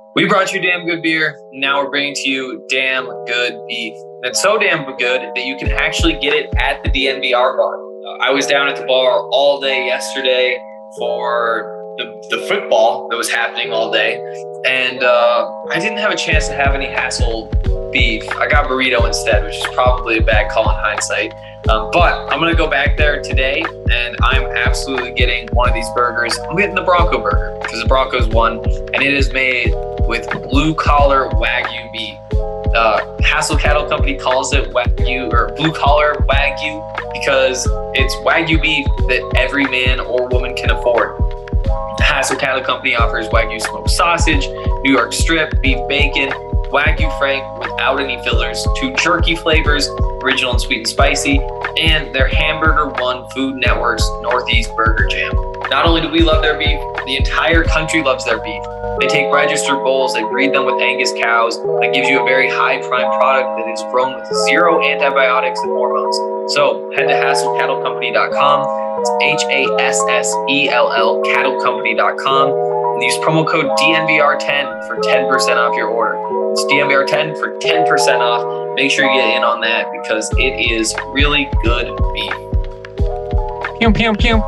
We brought you damn good beer. Now we're bringing to you damn good beef. And it's so damn good that you can actually get it at the DNVR bar. I was down at the bar all day yesterday for the football that was happening all day. And I didn't have a chance to have any hassle beef. I got burrito instead, which is probably a bad call in hindsight. But I'm going to go back there today, and I'm absolutely getting one of these burgers. I'm getting the Bronco burger because the Broncos won, and it is made with blue-collar Wagyu beef. Hassel Cattle Company calls it Wagyu or blue-collar Wagyu because it's Wagyu beef that every man or woman can afford. The Hassel Cattle Company offers Wagyu smoked sausage, New York strip, beef bacon, Wagyu Frank without any fillers, 2 jerky flavors, original and sweet and spicy, and their Hamburger One Food Network's Northeast Burger Jam. Not only do we love their beef, the entire country loves their beef. They take registered bulls, they breed them with Angus cows, that gives you a very high prime product that is grown with 0 antibiotics and hormones. So head to HassellCattleCompany.com. It's HASSELL cattlecompany.com. And use promo code DNVR10 for 10% off your order. It's DNVR10 for 10% off. Make sure you get in on that because it is really good beef. Pew, pew, pew,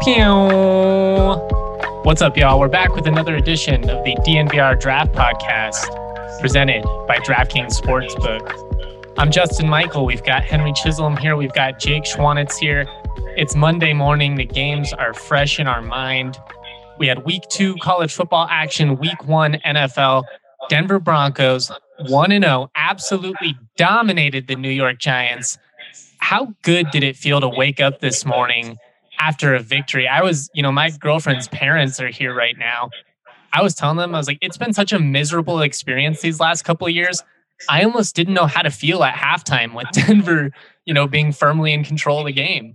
pew. What's up, y'all? We're back with another edition of the DNVR Draft Podcast presented by DraftKings Sportsbook. I'm Justin Michael. We've got Henry Chisholm here. We've got Jake Schwanitz here. It's Monday morning. The games are fresh in our mind. We had week 2 college football action, week 1 NFL. Denver Broncos 1-0, absolutely dominated the New York Giants. How good did it feel to wake up this morning after a victory? My girlfriend's parents are here right now. I was telling them, I was like, it's been such a miserable experience these last couple of years. I almost didn't know how to feel at halftime with Denver, being firmly in control of the game.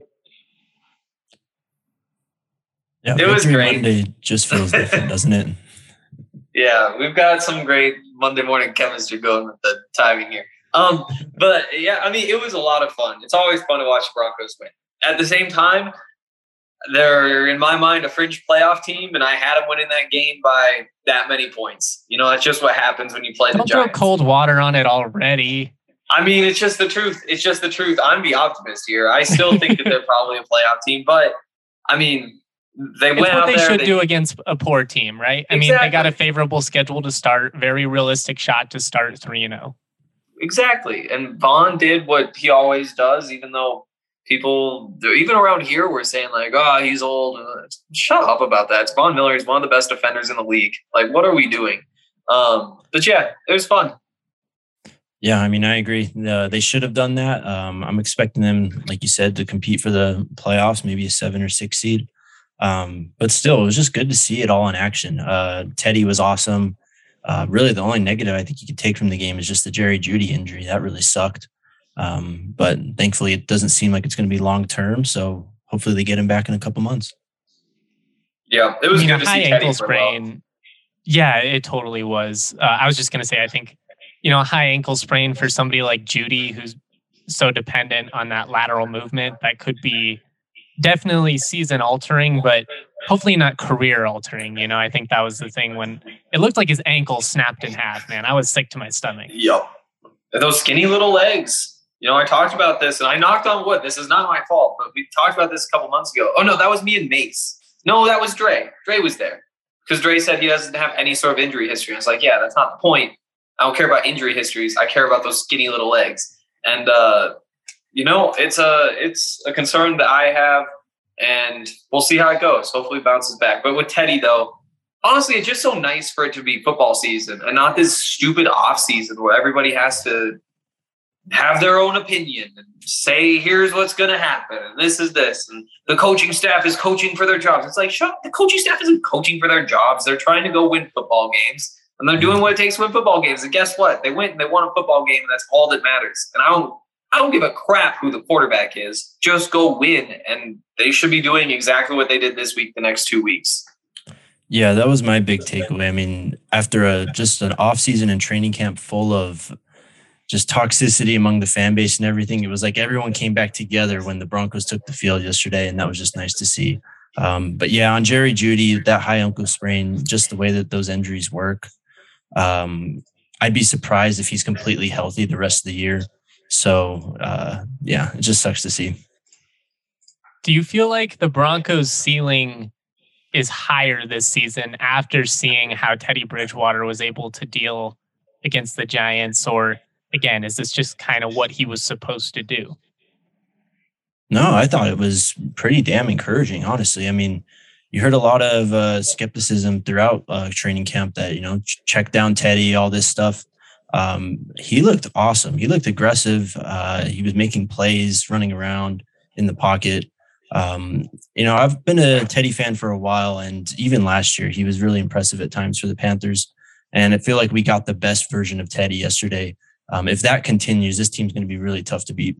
Yeah, it was great. Monday just feels different, doesn't it? Yeah, we've got some great Monday morning chemistry going with the timing here. But yeah, it was a lot of fun. It's always fun to watch the Broncos win. At the same time, they're, in my mind, a fringe playoff team, and I had them winning that game by that many points. That's just what happens when you play the Giants. Don't throw cold water on it already. It's just the truth. It's just the truth. I'm the optimist here. I still think that they're probably a playoff team, but they went out there. It's what they should do against a poor team, right? Exactly. They got a favorable schedule to start, very realistic shot to start 3-0. Exactly. And Vaughn did what he always does, even though people, even around here, were saying like, oh, he's old. Shut up about that. It's Von Miller. He's one of the best defenders in the league. Like, what are we doing? But yeah, it was fun. Yeah, I agree. They should have done that. I'm expecting them, like you said, to compete for the playoffs, maybe a 7 or 6 seed. But still, it was just good to see it all in action. Teddy was awesome. Really, the only negative I think you could take from the game is just the Jerry Jeudy injury. That really sucked. But thankfully, it doesn't seem like it's going to be long term. So hopefully, they get him back in a couple months. Yeah, it was good to see ankle Teddy sprain. Well. Yeah, it totally was. I was just going to say, I think a high ankle sprain for somebody like Jeudy, who's so dependent on that lateral movement, that could be definitely season altering, but hopefully not career altering. I think that was the thing when it looked like his ankle snapped in half, man. I was sick to my stomach. Yep. And those skinny little legs. I talked about this and I knocked on wood. This is not my fault, but we talked about this a couple months ago. Oh no, that was me and Mace. No, that was Dre. Dre was there because Dre said he doesn't have any sort of injury history. I was like, yeah, that's not the point. I don't care about injury histories. I care about those skinny little legs. And, it's a concern that I have, and we'll see how it goes. Hopefully it bounces back. But with Teddy, though, honestly, it's just so nice for it to be football season and not this stupid off season where everybody has to have their own opinion and say, here's what's going to happen. And this is this. And the coaching staff is coaching for their jobs. It's like, the coaching staff isn't coaching for their jobs. They're trying to go win football games. And they're doing what it takes to win football games. And guess what? They went and they won a football game, and that's all that matters. And I don't give a crap who the quarterback is. Just go win. And they should be doing exactly what they did this week, the next 2 weeks. Yeah, that was my big takeaway. After just an offseason and training camp full of just toxicity among the fan base and everything, it was like everyone came back together when the Broncos took the field yesterday, and that was just nice to see. But yeah, on Jerry Jeudy, that high ankle sprain, just the way that those injuries work, I'd be surprised if he's completely healthy the rest of the year. So, it just sucks to see. Do you feel like the Broncos' ceiling is higher this season after seeing how Teddy Bridgewater was able to deal against the Giants? Or, again, is this just kind of what he was supposed to do? No, I thought it was pretty damn encouraging, honestly. I mean, you heard a lot of skepticism throughout training camp that, check down Teddy, all this stuff. He looked awesome. He looked aggressive. He was making plays, running around in the pocket. I've been a Teddy fan for a while, and even last year, he was really impressive at times for the Panthers. And I feel like we got the best version of Teddy yesterday. If that continues, this team's going to be really tough to beat.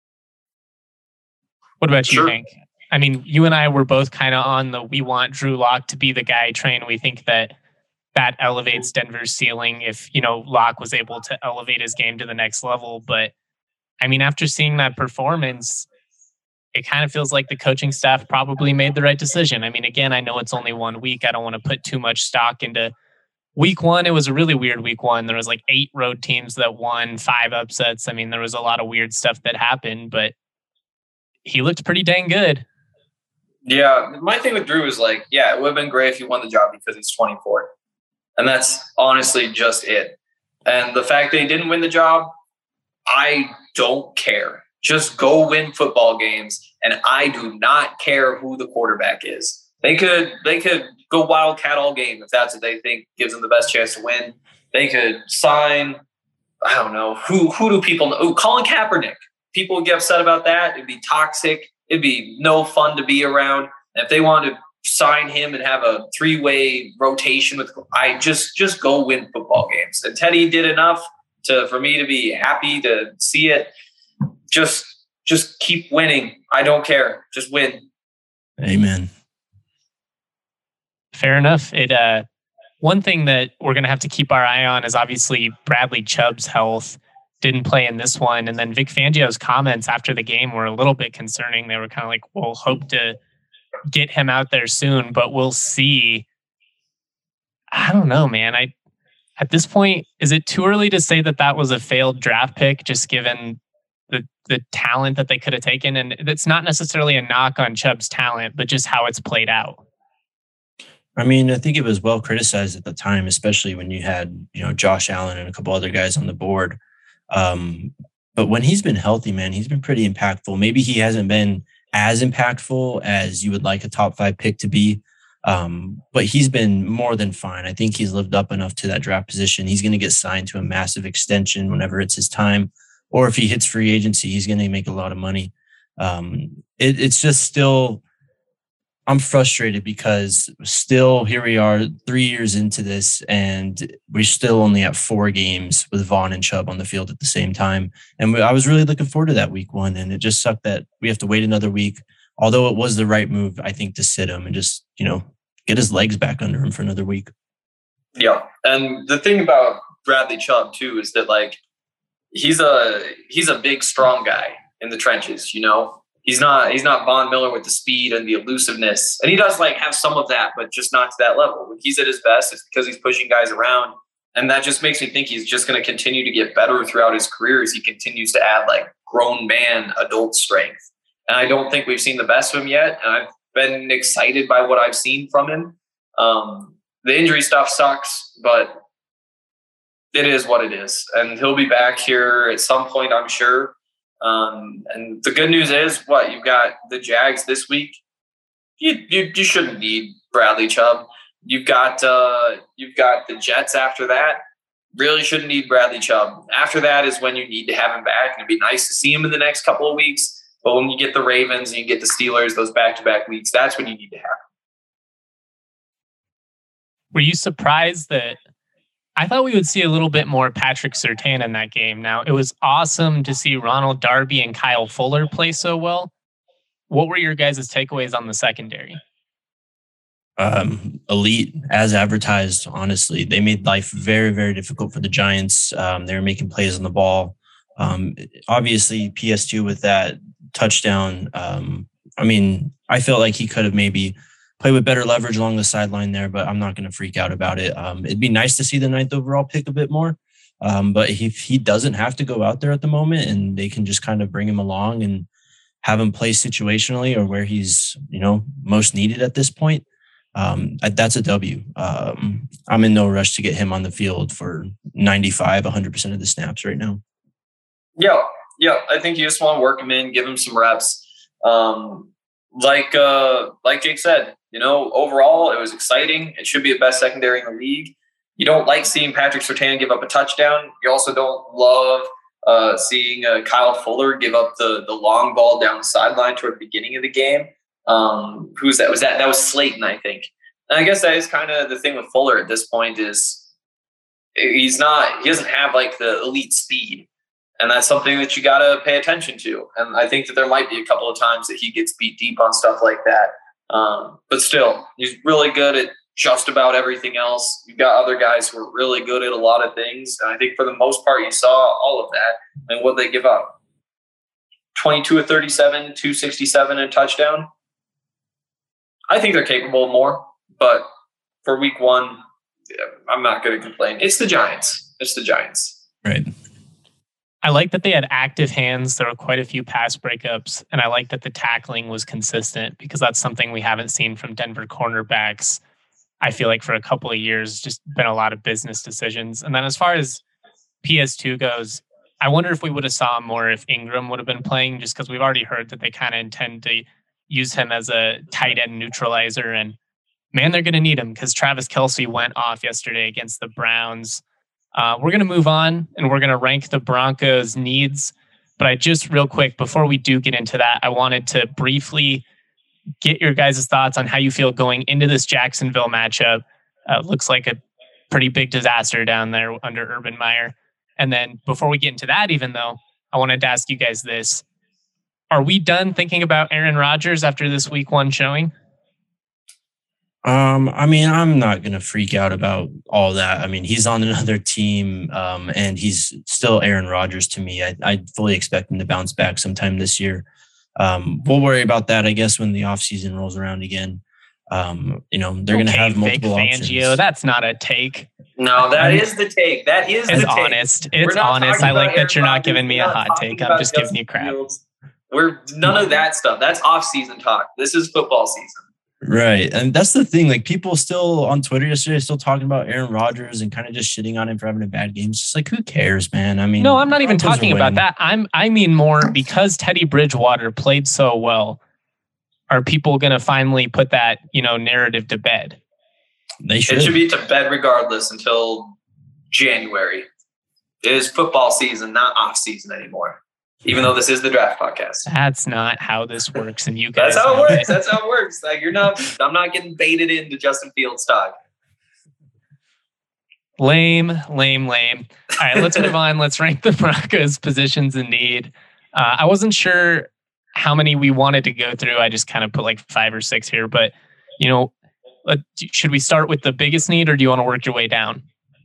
What about you, Hank? I mean, you and I were both kind of on we want Drew Lock to be the guy train. We think that elevates Denver's ceiling if, Lock was able to elevate his game to the next level. But, I mean, after seeing that performance, it kind of feels like the coaching staff probably made the right decision. I mean, again, I know it's only 1 week. I don't want to put too much stock into week one. It was a really weird week one. There was like 8 road teams that won, 5 upsets. I mean, there was a lot of weird stuff that happened, but he looked pretty dang good. Yeah, my thing with Drew is it would have been great if he won the job because he's 24. And that's honestly just it. And the fact that he didn't win the job, I don't care. Just go win football games. And I do not care who the quarterback is. They could go Wildcat all game if that's what they think gives them the best chance to win. They could sign, I don't know, who do people know? Oh, Colin Kaepernick. People would get upset about that. It'd be toxic. It'd be no fun to be around. And if they wanted to sign him and have a 3-way rotation just go win football games. And Teddy did enough for me to be happy to see it. Just keep winning. I don't care. Just win. Amen. Fair enough. One thing that we're going to have to keep our eye on is obviously Bradley Chubb's health. Didn't play in this one. And then Vic Fangio's comments after the game were a little bit concerning. They were kind of like, we'll hope to get him out there soon, but we'll see. I don't know, man. At this point, is it too early to say that was a failed draft pick, just given the talent that they could have taken? And it's not necessarily a knock on Chubb's talent, but just how it's played out. I mean, I think it was well criticized at the time, especially when you had, Josh Allen and a couple other guys on the board. But when he's been healthy, man, he's been pretty impactful. Maybe he hasn't been as impactful as you would like a top 5 pick to be. But he's been more than fine. I think he's lived up enough to that draft position. He's going to get signed to a massive extension whenever it's his time, or if he hits free agency, he's going to make a lot of money. It's just still, I'm frustrated because still here we are 3 years into this and we're still only at 4 games with Vaughn and Chubb on the field at the same time. And I was really looking forward to that week 1. And it just sucked that we have to wait another week. Although it was the right move, I think, to sit him and just, get his legs back under him for another week. Yeah. And the thing about Bradley Chubb too, is that he's a big, strong guy in the trenches, He's not Von Miller with the speed and the elusiveness. And he does have some of that, but just not to that level. When he's at his best, it's because he's pushing guys around. And that just makes me think he's just going to continue to get better throughout his career as he continues to add grown man adult strength. And I don't think we've seen the best of him yet. And I've been excited by what I've seen from him. The injury stuff sucks, but it is what it is. And he'll be back here at some point, I'm sure. And the good news is, you've got the Jags this week. You shouldn't need Bradley Chubb. You've got the Jets after that. Really shouldn't need Bradley Chubb. After that is when you need to have him back. And it'd be nice to see him in the next couple of weeks. But when you get the Ravens and you get the Steelers, those back-to-back weeks, that's when you need to have him. Were you surprised that I thought we would see a little bit more Patrick Surtain in that game? Now, it was awesome to see Ronald Darby and Kyle Fuller play so well. What were your guys' takeaways on the secondary? Elite, as advertised, honestly. They made life very, very difficult for the Giants. They were making plays on the ball. Obviously, PS2 with that touchdown. I felt like he could have maybe play with better leverage along the sideline there, but I'm not going to freak out about it. It'd be nice to see the 9th overall pick a bit more. But if he doesn't have to go out there at the moment and they can just kind of bring him along and have him play situationally or where he's, most needed at this point, that's a W. I'm in no rush to get him on the field for 95, 100% of the snaps right now. Yeah. I think you just want to work him in, give him some reps. Like Jake said, overall it was exciting. It should be the best secondary in the league. You don't like seeing Patrick Surtain give up a touchdown. You also don't love seeing Kyle Fuller give up the long ball down the sideline toward the beginning of the game. Who's that? That was Slayton, I think. And I guess that is kind of the thing with Fuller at this point is he doesn't have like the elite speed. And that's something that you got to pay attention to. And I think that there might be a couple of times that he gets beat deep on stuff like that. But still, he's really good at just about everything else. You've got other guys who are really good at a lot of things. And I think for the most part, you saw all of that. And what they give up? 22 of 37, 267 and a touchdown. I think they're capable of more. But for week 1, I'm not going to complain. It's the Giants. Right. I like that they had active hands. There were quite a few pass breakups, and I like that the tackling was consistent because that's something we haven't seen from Denver cornerbacks. I feel like for a couple of years, just been a lot of business decisions. And then as far as PS2 goes, I wonder if we would have saw him more if Ingram would have been playing, just because we've already heard that they kind of intend to use him as a tight end neutralizer. And man, they're going to need him because Travis Kelce went off yesterday against the Browns. We're going to move on and we're going to rank the Broncos' needs. But I just real quick, before we do get into that, I wanted to briefly get your guys' thoughts on how you feel going into this Jacksonville matchup. Looks like a pretty big disaster down there under Urban Meyer. And then before we get into that, even though, I wanted to ask you guys this. Are we done thinking about Aaron Rodgers after this week 1 showing? I'm not going to freak out about all that. I mean, he's on another team, and he's still Aaron Rodgers to me. I fully expect him to bounce back sometime this year. We'll worry about that, I guess, when the offseason rolls around again. They're going to have multiple options. Fangio, that's not a take. No, that is the take. That is the take. Honest. It's honest. I like that you're not giving me a hot take. I'm just giving you crap. We're none of that stuff. That's off-season talk. This is football season. Right. And that's the thing. Like, people still on Twitter yesterday still talking about Aaron Rodgers and kind of just shitting on him for having a bad game. It's just like, who cares, man? I mean, no, I'm not even talking about that. I mean more because Teddy Bridgewater played so well. Are people going to finally put that, narrative to bed? They should. It should be to bed regardless until January. It is football season, not off season anymore. Even though this is the draft podcast. That's not how this works. And you guys. That's how it works. That's how it works. Like, I'm not getting baited into Justin Fields stock. Lame. All right, let's move on. Let's rank the Broncos' positions in need. I wasn't sure how many we wanted to go through. I just kind of put like 5 or 6 here. But, should we start with the biggest need or do you want to work your way down?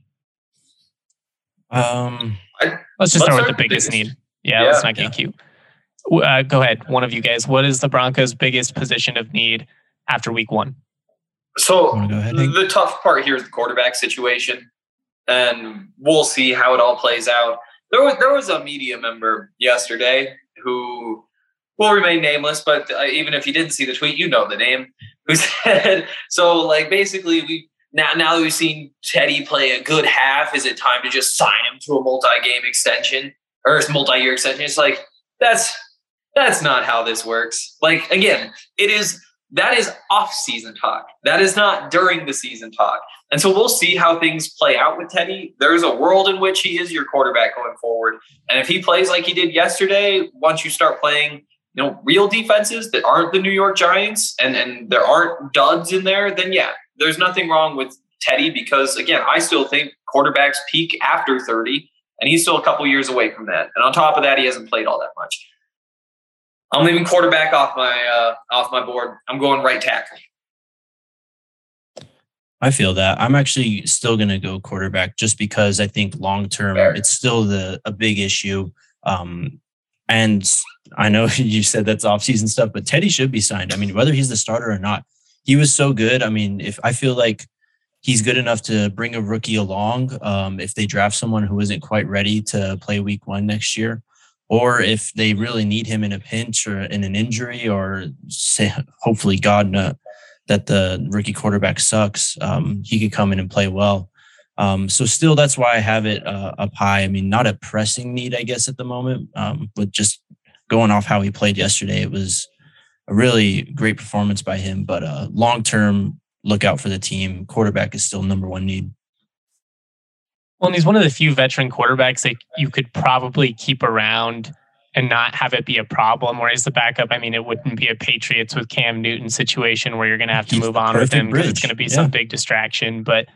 Let's just start with the biggest need. Yeah, let's not get cute. Go ahead, one of you guys. What is the Broncos' biggest position of need after week 1? So the tough part here is the quarterback situation, and we'll see how it all plays out. There was a media member yesterday who will remain nameless, but even if you didn't see the tweet, you know the name, who said, so like basically now that we've seen Teddy play a good half, is it time to just sign him to a multi-game extension? Or a multi-year extension? It's like, that's not how this works. Like, again, that is off-season talk. That is not during the season talk. And so we'll see how things play out with Teddy. There's a world in which he is your quarterback going forward. And if he plays like he did yesterday, once you start playing, real defenses that aren't the New York Giants and there aren't duds in there, then yeah, there's nothing wrong with Teddy because, again, I still think quarterbacks peak after 30. And he's still a couple years away from that. And on top of that, he hasn't played all that much. I'm leaving quarterback off my board. I'm going right tackle. I feel that. I'm actually still going to go quarterback just because I think long-term, it's still a big issue. And I know you said that's off-season stuff, but Teddy should be signed. I mean, whether he's the starter or not, he was so good. I mean, if I feel like he's good enough to bring a rookie along, if they draft someone who isn't quite ready to play week 1 next year, or if they really need him in a pinch or in an injury, or say, hopefully God that the rookie quarterback sucks, he could come in and play well. So still, that's why I have it up high. I mean, not a pressing need, I guess, at the moment, but just going off how he played yesterday, it was a really great performance by him. But long-term, look out for the team. Quarterback is still number 1 need. Well, and he's one of the few veteran quarterbacks that you could probably keep around and not have it be a problem. Whereas the backup, I mean, it wouldn't be a Patriots with Cam Newton situation where you're going to have to move on with him because it's going to be some big distraction. But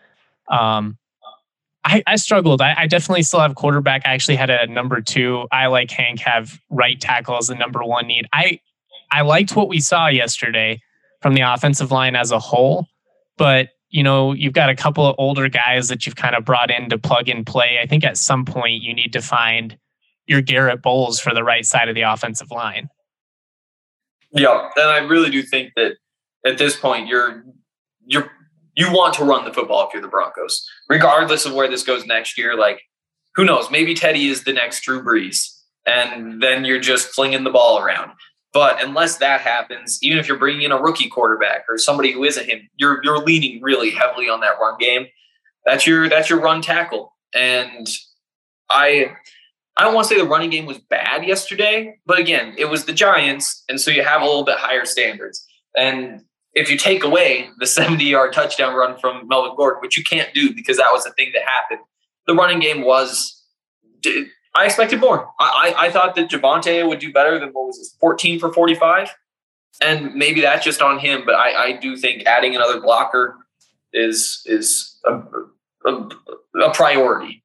I struggled. I definitely still have quarterback. I actually had a number 2. I, like Hank, have right tackle as the number 1 need. I liked what we saw yesterday from the offensive line as a whole, but you've got a couple of older guys that you've kind of brought in to plug and play. I think at some point you need to find your Garrett Bowles for the right side of the offensive line. Yeah, and I really do think that at this point you want to run the football if you're the Broncos, regardless of where this goes next year. Like, who knows? Maybe Teddy is the next Drew Brees, and then you're just flinging the ball around. But unless that happens, even if you're bringing in a rookie quarterback or somebody who isn't him, you're leaning really heavily on that run game. That's your run tackle. And I don't want to say the running game was bad yesterday, but again, it was the Giants, and so you have a little bit higher standards. And if you take away the 70-yard touchdown run from Melvin Gordon, which you can't do because that was the thing that happened, the running game was – I expected more. I thought that Javonte would do better than, 14 for 45? And maybe that's just on him, but I do think adding another blocker is a priority.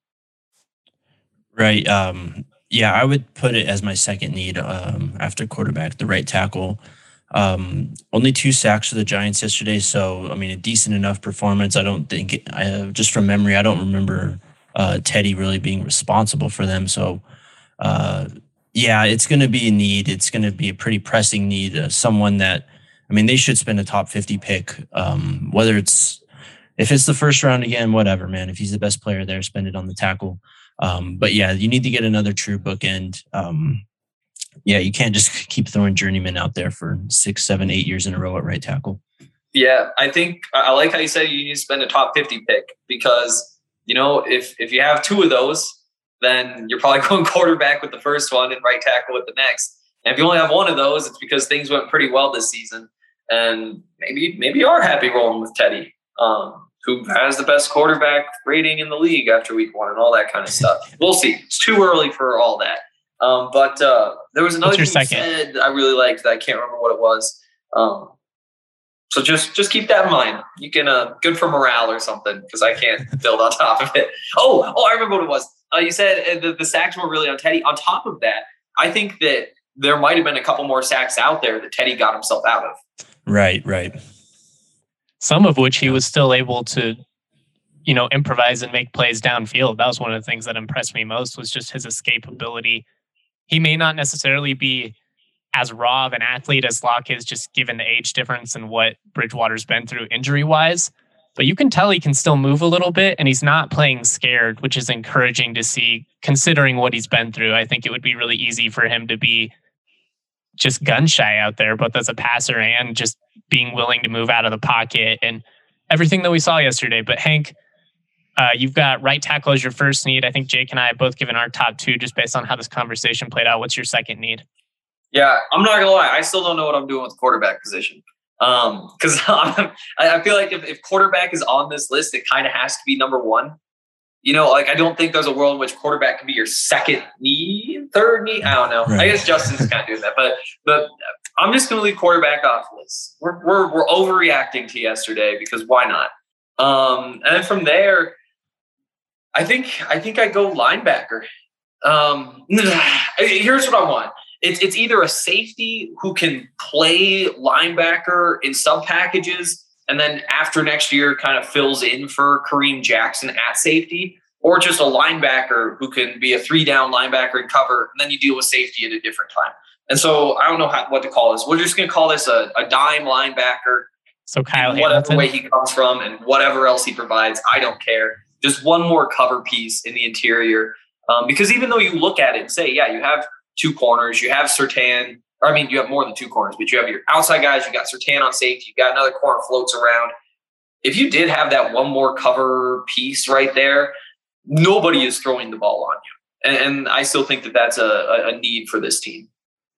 Right. Yeah, I would put it as my second need after quarterback, the right tackle. Only 2 sacks for the Giants yesterday, so, I mean, a decent enough performance. I don't think – just from memory, I don't remember – Teddy really being responsible for them. So, yeah, it's going to be a need. It's going to be a pretty pressing need. Someone that, I mean, they should spend a top 50 pick, whether if it's the first round again, whatever, man. If he's the best player there, spend it on the tackle. But yeah, you need to get another true bookend. Yeah, you can't just keep throwing journeyman out there for 6, 7, 8 years in a row at right tackle. Yeah, I think I like how you said you need to spend a top 50 pick because, if you have 2 of those, then you're probably going quarterback with the first one and right tackle with the next. And if you only have 1 of those, it's because things went pretty well this season. And maybe you are happy rolling with Teddy, who has the best quarterback rating in the league after week 1 and all that kind of stuff. We'll see. It's too early for all that. But there was another thing you said I really liked that I can't remember what it was. So just keep that in mind. You can good for morale or something because I can't build on top of it. Oh, I remember what it was. You said the sacks were really on Teddy. On top of that, I think that there might have been a couple more sacks out there that Teddy got himself out of. Right. Some of which he was still able to, improvise and make plays downfield. That was one of the things that impressed me most was just his escape ability. He may not necessarily be as raw of an athlete as Locke is, just given the age difference and what Bridgewater's been through injury-wise. But you can tell he can still move a little bit, and he's not playing scared, which is encouraging to see, considering what he's been through. I think it would be really easy for him to be just gun-shy out there, both as a passer and just being willing to move out of the pocket and everything that we saw yesterday. But Hank, you've got right tackle as your first need. I think Jake and I have both given our top 2 just based on how this conversation played out. What's your second need? Yeah, I'm not going to lie. I still don't know what I'm doing with the quarterback position. Because I feel like if quarterback is on this list, it kind of has to be number 1. I don't think there's a world in which quarterback can be your second need, third need. I don't know. Right. I guess Justin's kind of doing that. But I'm just going to leave quarterback off this. We're overreacting to yesterday because why not? And then from there, I think I go linebacker. Here's what I want. It's either a safety who can play linebacker in sub packages and then after next year kind of fills in for Kareem Jackson at safety, or just a linebacker who can be a 3-down linebacker and cover, and then you deal with safety at a different time. And so I don't know what to call this. We're just going to call this a dime linebacker. So Kyle in whatever Hamilton? way he comes from and whatever else he provides, I don't care. Just one more cover piece in the interior. Because even though you look at it and say, yeah, you have two corners, you have Surtain, or I mean, you have more than two corners, but you have your outside guys, you got Surtain on safety, you got another corner floats around. If you did have that one more cover piece right there, nobody is throwing the ball on you. And I still think that that's a need for this team.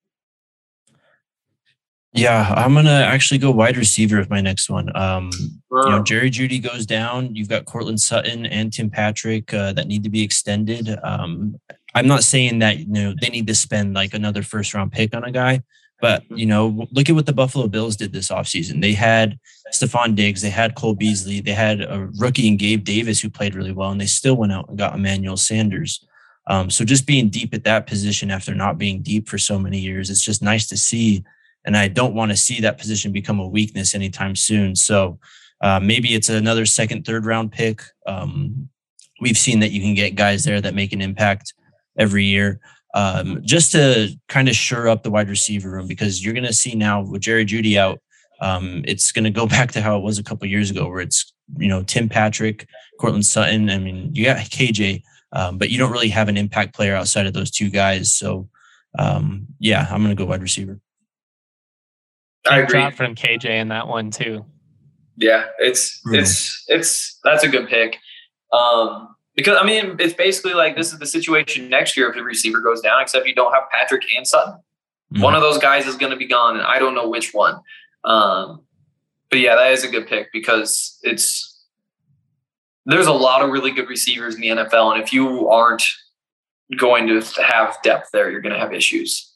Yeah, I'm going to actually go wide receiver with my next one. Jerry Jeudy goes down. You've got Courtland Sutton and Tim Patrick that need to be extended. I'm not saying that they need to spend like another first round pick on a guy, but look at what the Buffalo Bills did this offseason. They had Stephon Diggs, they had Cole Beasley, they had a rookie in Gabe Davis who played really well, and they still went out and got Emmanuel Sanders. So just being deep at that position after not being deep for so many years, it's just nice to see. And I don't want to see that position become a weakness anytime soon. So maybe it's another second, third round pick. We've seen that you can get guys there that make an impact every year just to kind of shore up the wide receiver room, because you're going to see now with Jerry Jeudy out, it's going to go back to how it was a couple of years ago where it's, Tim Patrick, Courtland Sutton. I mean, you got KJ, but you don't really have an impact player outside of those two guys. So I'm going to go wide receiver. I agree. Drop from KJ in that one too. Yeah, it's that's a good pick. Because I mean, it's basically like this is the situation next year if the receiver goes down, except you don't have Patrick and Sutton. Mm-hmm. One of those guys is going to be gone, and I don't know which one. But yeah, that is a good pick because there's a lot of really good receivers in the NFL, and if you aren't going to have depth there, you're going to have issues.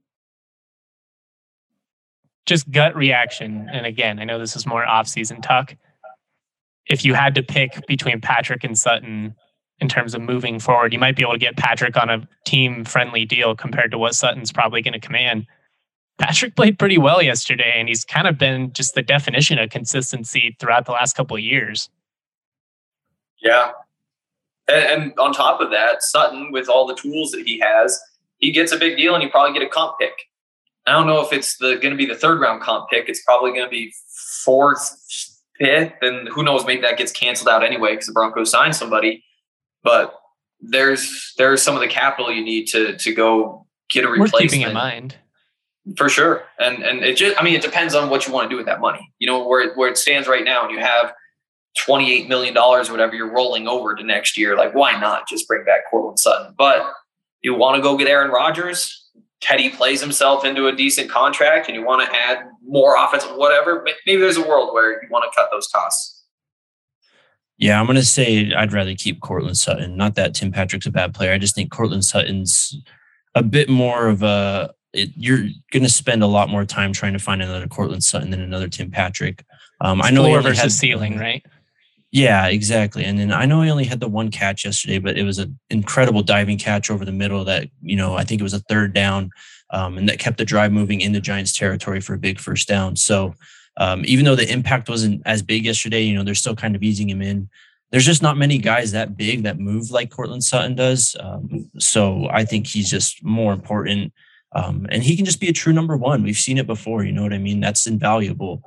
Just gut reaction. And again, I know this is more off-season talk. If you had to pick between Patrick and Sutton in terms of moving forward, you might be able to get Patrick on a team-friendly deal compared to what Sutton's probably going to command. Patrick played pretty well yesterday, and he's kind of been just the definition of consistency throughout the last couple of years. Yeah. And on top of that, Sutton, with all the tools that he has, he gets a big deal, and you probably get a comp pick. I don't know if it's going to be the third round comp pick. It's probably going to be fourth, fifth, and who knows, maybe that gets canceled out anyway because the Broncos signed somebody. But there's some of the capital you need to go get a replacement. We're keeping in mind. For sure. And it just, I mean, it depends on what you want to do with that money. Where it stands right now, and you have $28 million or whatever you're rolling over to next year. Like, why not just bring back Courtland Sutton? But you want to go get Aaron Rodgers. Teddy plays himself into a decent contract and you want to add more offense, whatever. Maybe there's a world where you want to cut those costs. Yeah, I'm going to say I'd rather keep Courtland Sutton. Not that Tim Patrick's a bad player. I just think Courtland Sutton's a bit more of you're going to spend a lot more time trying to find another Courtland Sutton than another Tim Patrick. I know floor versus ceiling, right? Yeah, exactly. And then I know he only had the one catch yesterday, but it was an incredible diving catch over the middle that, I think it was a third down, and that kept the drive moving into Giants territory for a big first down. So even though the impact wasn't as big yesterday, they're still kind of easing him in. There's just not many guys that big that move like Courtland Sutton does. So I think he's just more important. And he can just be a true number one. We've seen it before. You know what I mean? That's invaluable.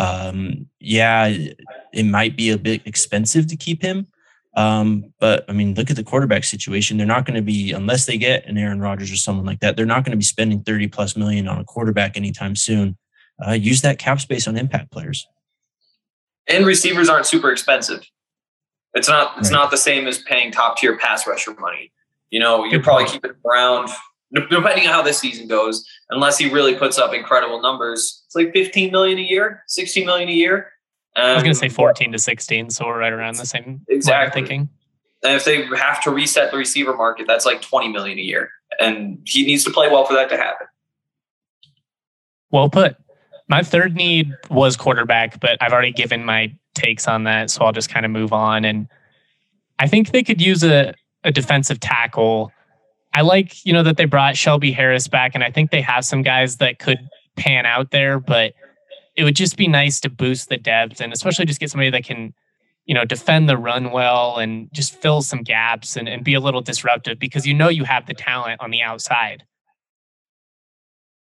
It might be a bit expensive to keep him. But I mean, look at the quarterback situation. They're not going to be, unless they get an Aaron Rodgers or someone like that, they're not going to be spending $30+ million on a quarterback anytime soon. Use that cap space on impact players. And receivers aren't super expensive. It's not the same as paying top tier pass rusher money. You're probably keeping him around, depending on how this season goes, unless he really puts up incredible numbers. It's like $15 million a year, $16 million a year. I was going to say 14 to 16, so we're right around the same exactly thinking. And if they have to reset the receiver market, that's like $20 million a year, and he needs to play well for that to happen. Well put. My third need was quarterback, but I've already given my takes on that, so I'll just kind of move on. And I think they could use a defensive tackle. I like, that they brought Shelby Harris back, and I think they have some guys that could pan out there, but it would just be nice to boost the depth and especially just get somebody that can, defend the run well and just fill some gaps and be a little disruptive because you have the talent on the outside.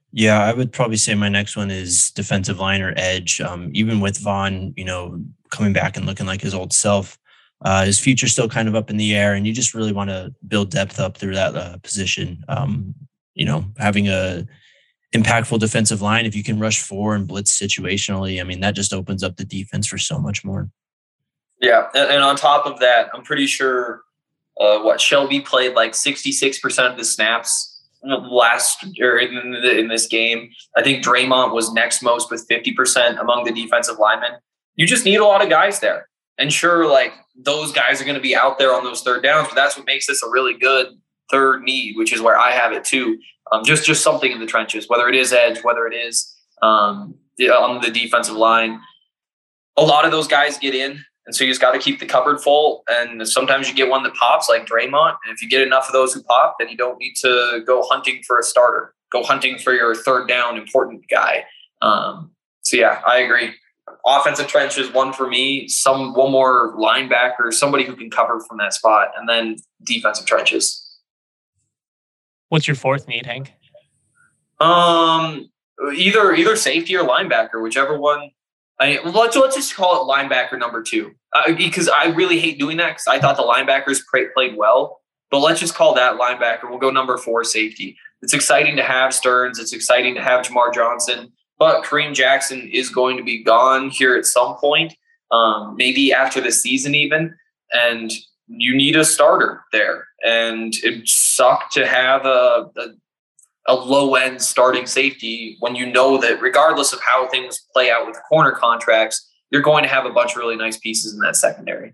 Yeah, I would probably say my next one is defensive line or edge. Even with Vaughn, coming back and looking like his old self, his future's still kind of up in the air, and you just really want to build depth up through that position. Having a impactful defensive line, if you can rush four and blitz situationally, I mean, that just opens up the defense for so much more. Yeah, and on top of that, I'm pretty sure Shelby played like 66% of the snaps last or in this game. I think Draymond was next most with 50% among the defensive linemen. You just need a lot of guys there. And sure, like those guys are going to be out there on those third downs, but that's what makes this a really good third need, which is where I have it too. Just something in the trenches, whether it is edge, whether it is on the defensive line. A lot of those guys get in. And so you just got to keep the cupboard full. And sometimes you get one that pops like Draymond. And if you get enough of those who pop, then you don't need to go hunting for a starter. Go hunting for your third down important guy. So yeah, I agree. Offensive trenches, one for me, one more linebacker, somebody who can cover from that spot, and then defensive trenches. What's your fourth need, Hank? Either safety or linebacker, whichever one. Let's just call it linebacker number 2 because I really hate doing that because I thought the linebackers played well. But let's just call that linebacker. We'll go number 4, safety. It's exciting to have Stearns. It's exciting to have Jamar Johnson. But Kareem Jackson is going to be gone here at some point, maybe after the season even. And you need a starter there. And it sucked to have a low-end starting safety when you know that regardless of how things play out with the corner contracts, you're going to have a bunch of really nice pieces in that secondary.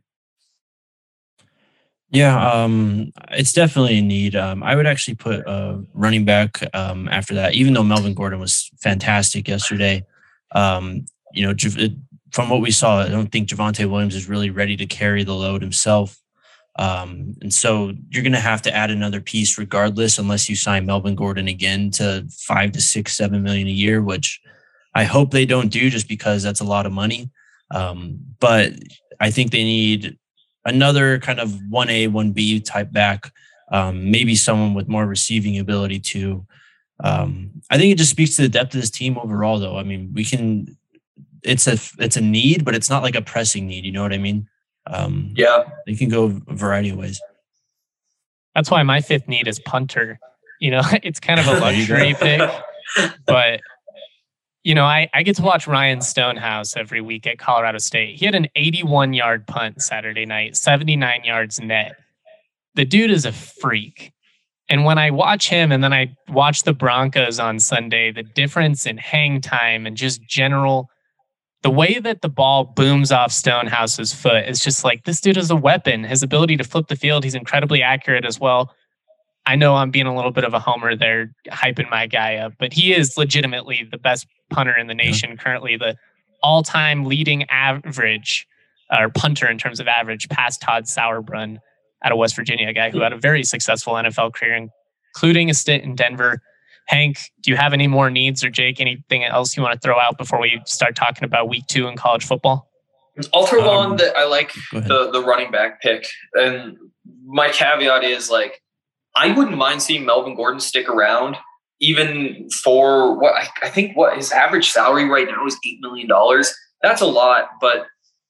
Yeah, it's definitely a need. I would actually put running back after that, even though Melvin Gordon was fantastic yesterday. From what we saw, I don't think Javonte Williams is really ready to carry the load himself. And so you're going to have to add another piece regardless, unless you sign Melvin Gordon again to $5 to $6, $7 million a year, which I hope they don't do just because that's a lot of money. But I think they need another kind of 1A, 1B type back, maybe someone with more receiving ability too. I think it just speaks to the depth of this team overall, though. I mean, it's a need, but it's not like a pressing need. You know what I mean? Yeah, they can go a variety of ways. That's why my fifth need is punter. It's kind of a luxury pick, but I get to watch Ryan Stonehouse every week at Colorado State. He had an 81-yard punt Saturday night, 79 yards net. The dude is a freak. And when I watch him and then I watch the Broncos on Sunday, the difference in hang time and just the way that the ball booms off Stonehouse's foot is just like, this dude is a weapon. His ability to flip the field, he's incredibly accurate as well. I know I'm being a little bit of a homer there, hyping my guy up, but he is legitimately the best punter in the nation currently, the all-time leading average or punter in terms of average past Todd Sauerbrunn out of West Virginia, a guy who had a very successful NFL career, including a stint in Denver. Hank, do you have any more needs, or Jake, anything else you want to throw out before we start talking about week 2 in college football? I'll throw on that I like the running back pick. And my caveat is like, I wouldn't mind seeing Melvin Gordon stick around even for what I think what his average salary right now is $8 million. That's a lot, but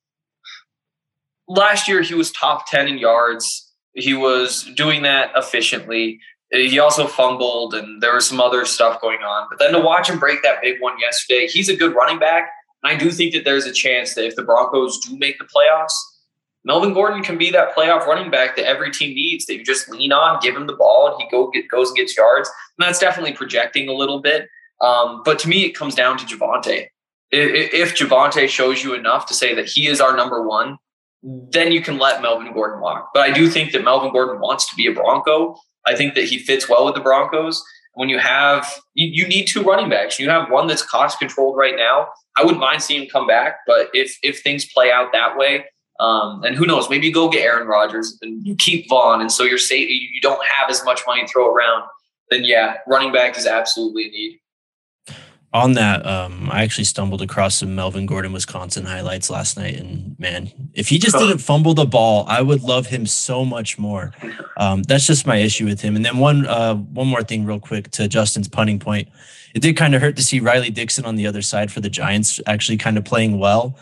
last year he was top 10 in yards. He was doing that efficiently. He also fumbled and there was some other stuff going on. But then to watch him break that big one yesterday, he's a good running back. And I do think that there's a chance that if the Broncos do make the playoffs, Melvin Gordon can be that playoff running back that every team needs, that you just lean on, give him the ball, and he goes and gets yards. And that's definitely projecting a little bit. But to me, it comes down to Javonte. If Javonte shows you enough to say that he is our number one, then you can let Melvin Gordon walk. But I do think that Melvin Gordon wants to be a Bronco. I think that he fits well with the Broncos. When you have – you need 2 running backs. You have one that's cost-controlled right now. I wouldn't mind seeing him come back. But if things play out that way, and who knows, maybe you go get Aaron Rodgers and you keep Vaughn, and so you're safe, you don't have as much money to throw around, then, yeah, running back is absolutely a need. On that, I actually stumbled across some Melvin Gordon, Wisconsin highlights last night, and man, if he just didn't fumble the ball, I would love him so much more. That's just my issue with him. And then one more thing, real quick, to Justin's punting point. It did kind of hurt to see Riley Dixon on the other side for the Giants actually kind of playing well.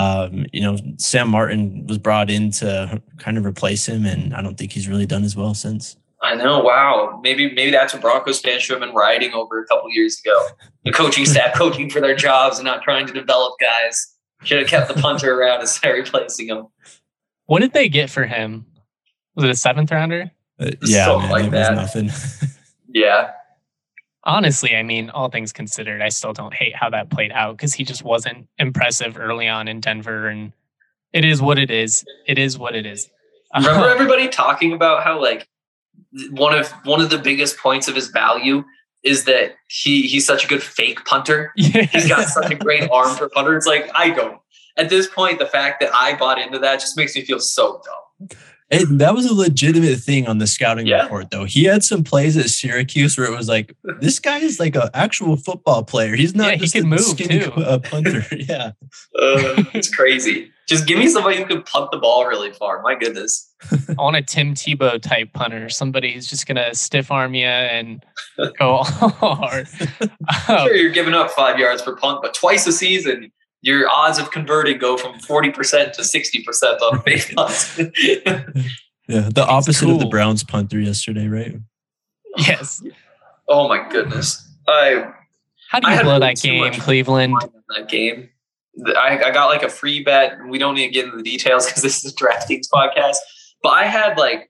Sam Martin was brought in to kind of replace him, and I don't think he's really done as well since. I know. Wow. Maybe that's what Broncos fans should have been riding over a couple years ago. The coaching staff coaching for their jobs and not trying to develop guys. Should have kept the punter around instead of replacing him. What did they get for him? Was it a 7th rounder? Yeah, man, like it that. was nothing. Yeah. Honestly, I mean, all things considered, I still don't hate how that played out because he just wasn't impressive early on in Denver. And it is what it is. It is what it is. Remember everybody talking about how like one of the biggest points of his value is that he's such a good fake punter. Yeah. He's got such a great arm for punter. It's like, I don't. At this point, the fact that I bought into that just makes me feel so dumb. That was a legitimate thing on the scouting report, though. He had some plays at Syracuse where it was like, this guy is like an actual football player. He's not just he can move skinny too. Punter. Yeah. It's crazy. Just give me somebody who can punt the ball really far. My goodness. I want a Tim Tebow type punter, somebody who's just going to stiff arm you and go hard. Sure, you're giving up 5 yards per punt, but twice a season, your odds of converting go from 40% to 60% on fake punts. Yeah, the opposite of the Browns punter yesterday, right? Yes. Oh my goodness. How do you blow that game, Cleveland? That game. I got like a free bet. We don't need to get into the details because this is a DraftKings podcast. But I had like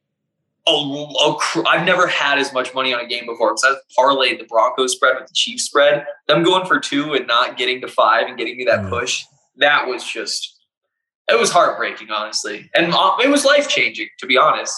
I've never had as much money on a game before because I parlayed the Broncos spread with the Chiefs spread. Them going for 2 and not getting to 5 and getting me that push. That was it was heartbreaking, honestly. And it was life-changing, to be honest.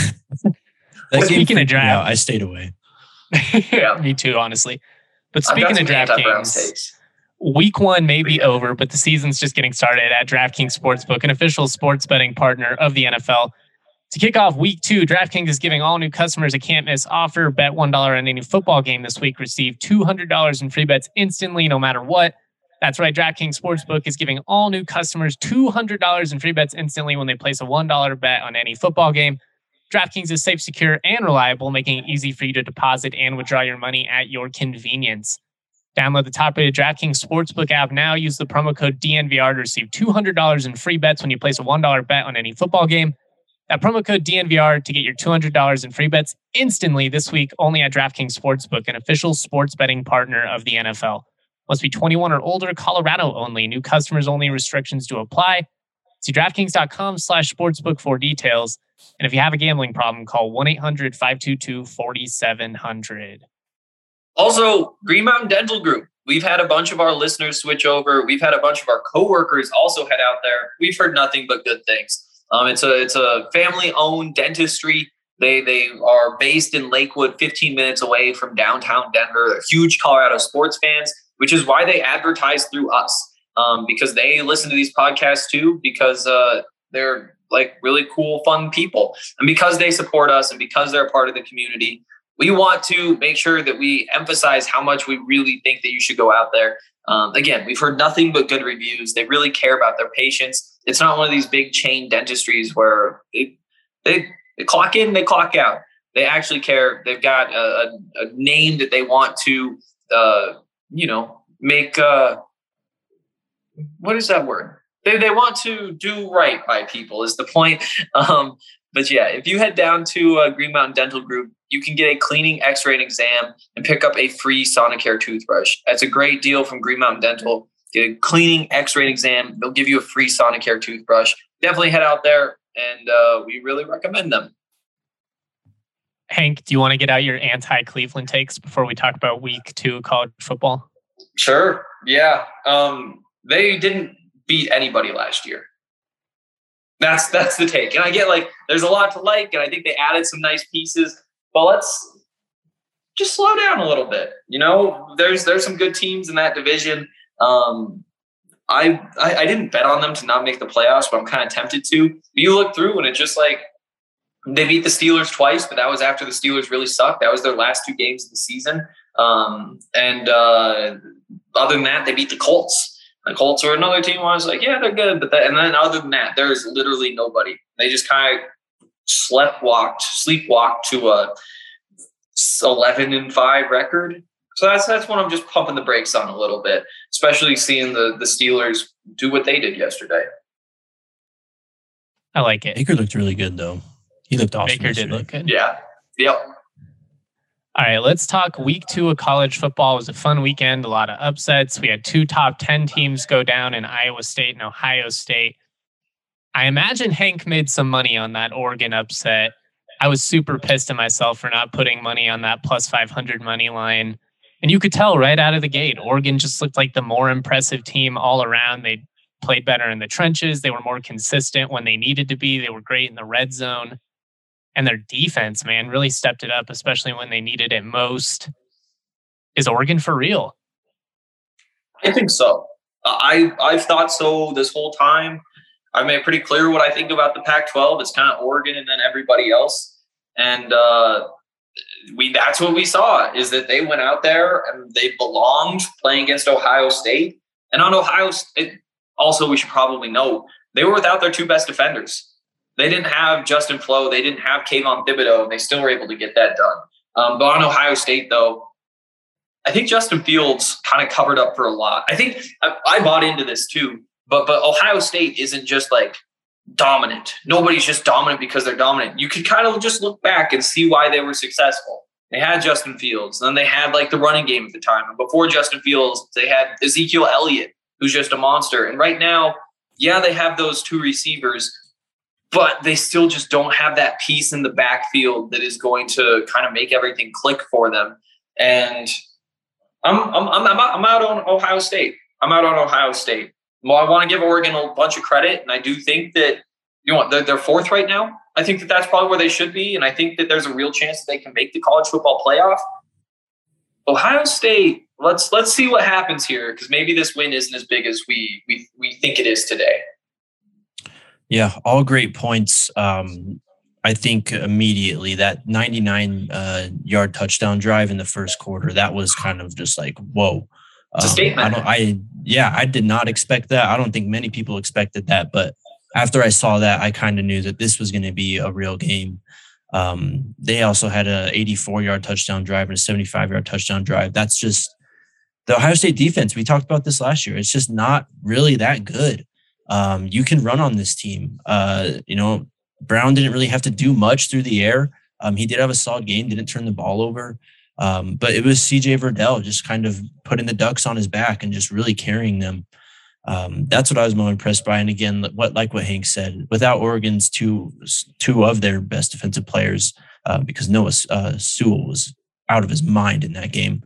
Speaking of draft, I stayed away. Yeah, me too, honestly. But speaking of DraftKings, Week 1 may be over, but the season's just getting started at DraftKings Sportsbook, an official sports betting partner of the NFL. To kick off Week 2, DraftKings is giving all new customers a can't-miss offer. Bet $1 on any football game this week. Receive $200 in free bets instantly, no matter what. That's right, DraftKings Sportsbook is giving all new customers $200 in free bets instantly when they place a $1 bet on any football game. DraftKings is safe, secure, and reliable, making it easy for you to deposit and withdraw your money at your convenience. Download the top-rated DraftKings Sportsbook app now. Use the promo code DNVR to receive $200 in free bets when you place a $1 bet on any football game. That promo code DNVR to get your $200 in free bets instantly this week only at DraftKings Sportsbook, an official sports betting partner of the NFL. Must be 21 or older, Colorado only. New customers only, restrictions to apply. See DraftKings.com/sportsbook for details. And if you have a gambling problem, call 1-800-522-4700. Also, Green Mountain Dental Group. We've had a bunch of our listeners switch over. We've had a bunch of our coworkers also head out there. We've heard nothing but good things. It's a family-owned dentistry. They are based in Lakewood, 15 minutes away from downtown Denver. They're huge Colorado sports fans, which is why they advertise through us, because they listen to these podcasts too, because they're like really cool, fun people. And because they support us and because they're a part of the community, we want to make sure that we emphasize how much we really think that you should go out there. Again, we've heard nothing but good reviews. They really care about their patients. It's not one of these big chain dentistries where they clock in, they clock out. They actually care. They've got a name that they want to, make. What is that word? They want to do right by people is the point. But yeah, if you head down to Green Mountain Dental Group, you can get a cleaning, x-ray, and exam and pick up a free Sonicare toothbrush. That's a great deal from Green Mountain Dental. Get a cleaning, x-ray, and exam. They'll give you a free Sonicare toothbrush. Definitely head out there, and we really recommend them. Hank, do you want to get out your anti-Cleveland takes before we talk about Week 2 college football? Sure. Yeah. They didn't beat anybody last year. That's the take. And I get like there's a lot to like, and I think they added some nice pieces. But let's just slow down a little bit. You know, there's some good teams in that division. I didn't bet on them to not make the playoffs, but I'm kind of tempted to. But you look through and it's just like they beat the Steelers twice, but that was after the Steelers really sucked. That was their last 2 games of the season. And other than that, they beat the Colts. The Colts are another team where I was like, yeah, they're good. And then other than that, there's literally nobody. They just kind of sleepwalked to a 11-5 record. So that's when I'm just pumping the brakes on a little bit, especially seeing the Steelers do what they did yesterday. I like it. Baker looked really good, though. He looked awesome. Baker did look good. Yeah. Yep. All right, let's talk week 2 of college football. It was a fun weekend, a lot of upsets. We had 2 top 10 teams go down in Iowa State and Ohio State. I imagine Hank made some money on that Oregon upset. I was super pissed at myself for not putting money on that plus 500 money line. And you could tell right out of the gate, Oregon just looked like the more impressive team all around. They played better in the trenches. They were more consistent when they needed to be. They were great in the red zone. And their defense, man, really stepped it up, especially when they needed it most. Is Oregon for real? I think so. I've thought so this whole time. I've made pretty clear what I think about the Pac-12. It's kind of Oregon and then everybody else. And that's what we saw, is that they went out there and they belonged playing against Ohio State. And on Ohio State, also we should probably note, they were without their 2 best defenders. They didn't have Justin Flo. They didn't have Kayvon Thibodeau, and they still were able to get that done. But on Ohio State, though, I think Justin Fields kind of covered up for a lot. I think I bought into this too, but Ohio State isn't just like dominant. Nobody's just dominant because they're dominant. You could kind of just look back and see why they were successful. They had Justin Fields. Then they had like the running game at the time. And before Justin Fields, they had Ezekiel Elliott, who's just a monster. And right now, yeah, they have those 2 receivers, but they still just don't have that piece in the backfield that is going to kind of make everything click for them. And I'm out on Ohio State. I'm out on Ohio State. Well, I want to give Oregon a bunch of credit, and I do think that they're 4th right now. I think that that's probably where they should be, and I think that there's a real chance that they can make the college football playoff. Ohio State, let's see what happens here, because maybe this win isn't as big as we think it is today. Yeah, all great points. I think immediately that 99-yard touchdown drive in the first quarter, that was kind of just like, whoa. It's a statement. I did not expect that. I don't think many people expected that. But after I saw that, I kind of knew that this was going to be a real game. They also had a 84-yard touchdown drive and a 75-yard touchdown drive. That's just the Ohio State defense. We talked about this last year. It's just not really that good. You can run on this team. Brown didn't really have to do much through the air. He did have a solid game, didn't turn the ball over. But it was CJ Verdell just kind of putting the Ducks on his back and just really carrying them. That's what I was more impressed by. And again, what Hank said, without Oregon's two of their best defensive players, because Noah Sewell was out of his mind in that game.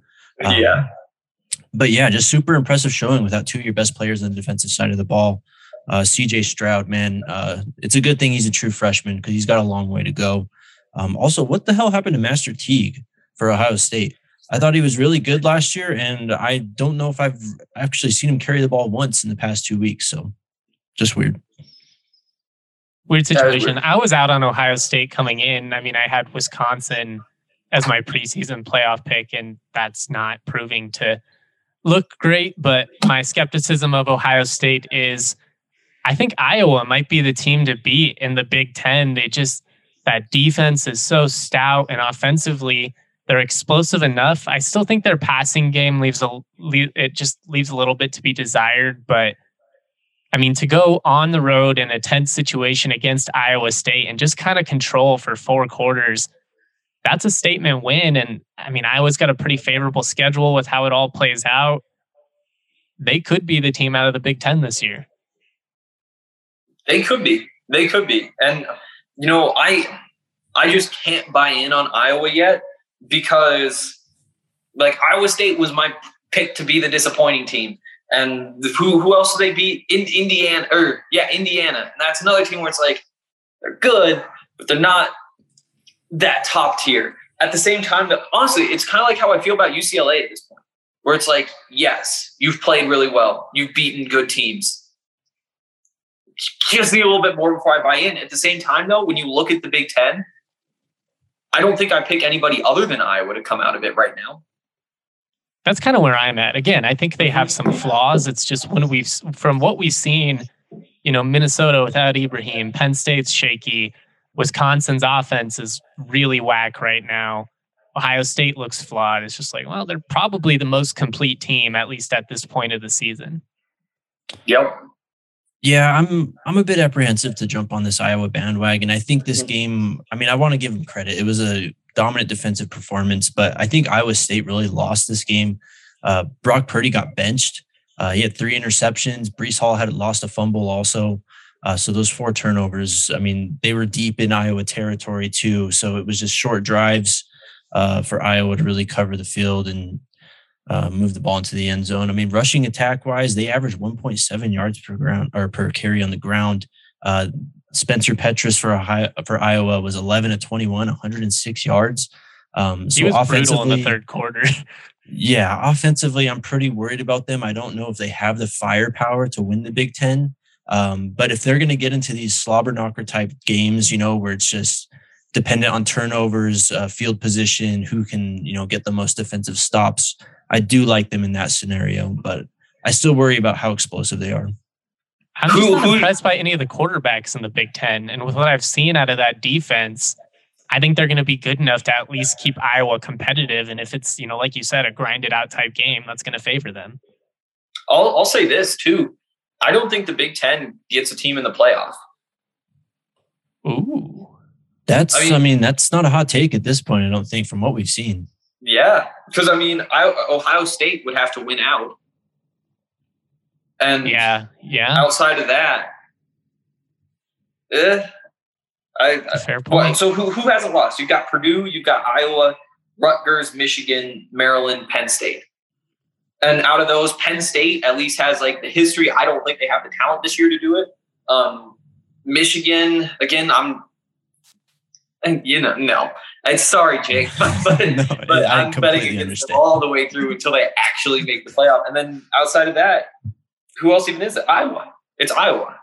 But yeah, just super impressive showing without 2 of your best players on the defensive side of the ball. CJ Stroud, man, it's a good thing he's a true freshman because he's got a long way to go. Also, what the hell happened to Master Teague for Ohio State? I thought he was really good last year, and I don't know if I've actually seen him carry the ball once in the past 2 weeks. So just weird. Weird situation. I was out on Ohio State coming in. I mean, I had Wisconsin as my preseason playoff pick, and that's not proving to look great. But my skepticism of Ohio State is I think Iowa might be the team to beat in the Big Ten. That defense is so stout, and offensively, they're explosive enough. I still think their passing game leaves a little bit to be desired. But I mean, to go on the road in a tense situation against Iowa State and just kind of control for 4 quarters, that's a statement win. And I mean, Iowa's got a pretty favorable schedule with how it all plays out. They could be the team out of the Big Ten this year. They could be. And, I just can't buy in on Iowa yet because, Iowa State was my pick to be the disappointing team. And who else did they beat? Indiana. Indiana. And that's another team where it's like, they're good, but they're not that top tier. At the same time, honestly, it's kind of like how I feel about UCLA at this point, where it's like, yes, you've played really well. You've beaten good teams. Just need a little bit more before I buy in. At the same time, though, when you look at the Big Ten, I don't think I pick anybody other than Iowa to come out of it right now. That's kind of where I'm at. Again, I think they have some flaws. It's just from what we've seen, Minnesota without Ibrahim, Penn State's shaky, Wisconsin's offense is really whack right now. Ohio State looks flawed. It's just like, well, they're probably the most complete team, at least at this point of the season. Yep. Yeah, I'm a bit apprehensive to jump on this Iowa bandwagon. I think this game, I want to give them credit. It was a dominant defensive performance, but I think Iowa State really lost this game. Brock Purdy got benched. He had 3 interceptions. Breece Hall had lost a fumble also. So those 4 turnovers, they were deep in Iowa territory too. So it was just short drives for Iowa to really cover the field and move the ball into the end zone. Rushing attack wise, they averaged 1.7 yards per carry on the ground. Spencer Petras for Iowa was 11 of 21, 106 yards. He was brutal in the third quarter. Yeah, offensively, I'm pretty worried about them. I don't know if they have the firepower to win the Big Ten. But if they're going to get into these slobber knocker type games, where it's just dependent on turnovers, field position, who can, get the most defensive stops, I do like them in that scenario, but I still worry about how explosive they are. I'm just not impressed by any of the quarterbacks in the Big Ten. And with what I've seen out of that defense, I think they're going to be good enough to at least keep Iowa competitive. And if it's, like you said, a grinded out type game, that's going to favor them. I'll say this too. I don't think the Big Ten gets a team in the playoff. Ooh. That's not a hot take at this point, I don't think, from what we've seen. Yeah, because Ohio State would have to win out. And yeah. Outside of that, fair point. So who hasn't lost? You've got Purdue, you've got Iowa, Rutgers, Michigan, Maryland, Penn State. And out of those, Penn State at least has the history. I don't think they have the talent this year to do it. Michigan, again, no. I'm sorry, Jake, but I'm betting against them all the way through until they actually make the playoff. And then outside of that, who else even is it? Iowa. It's Iowa.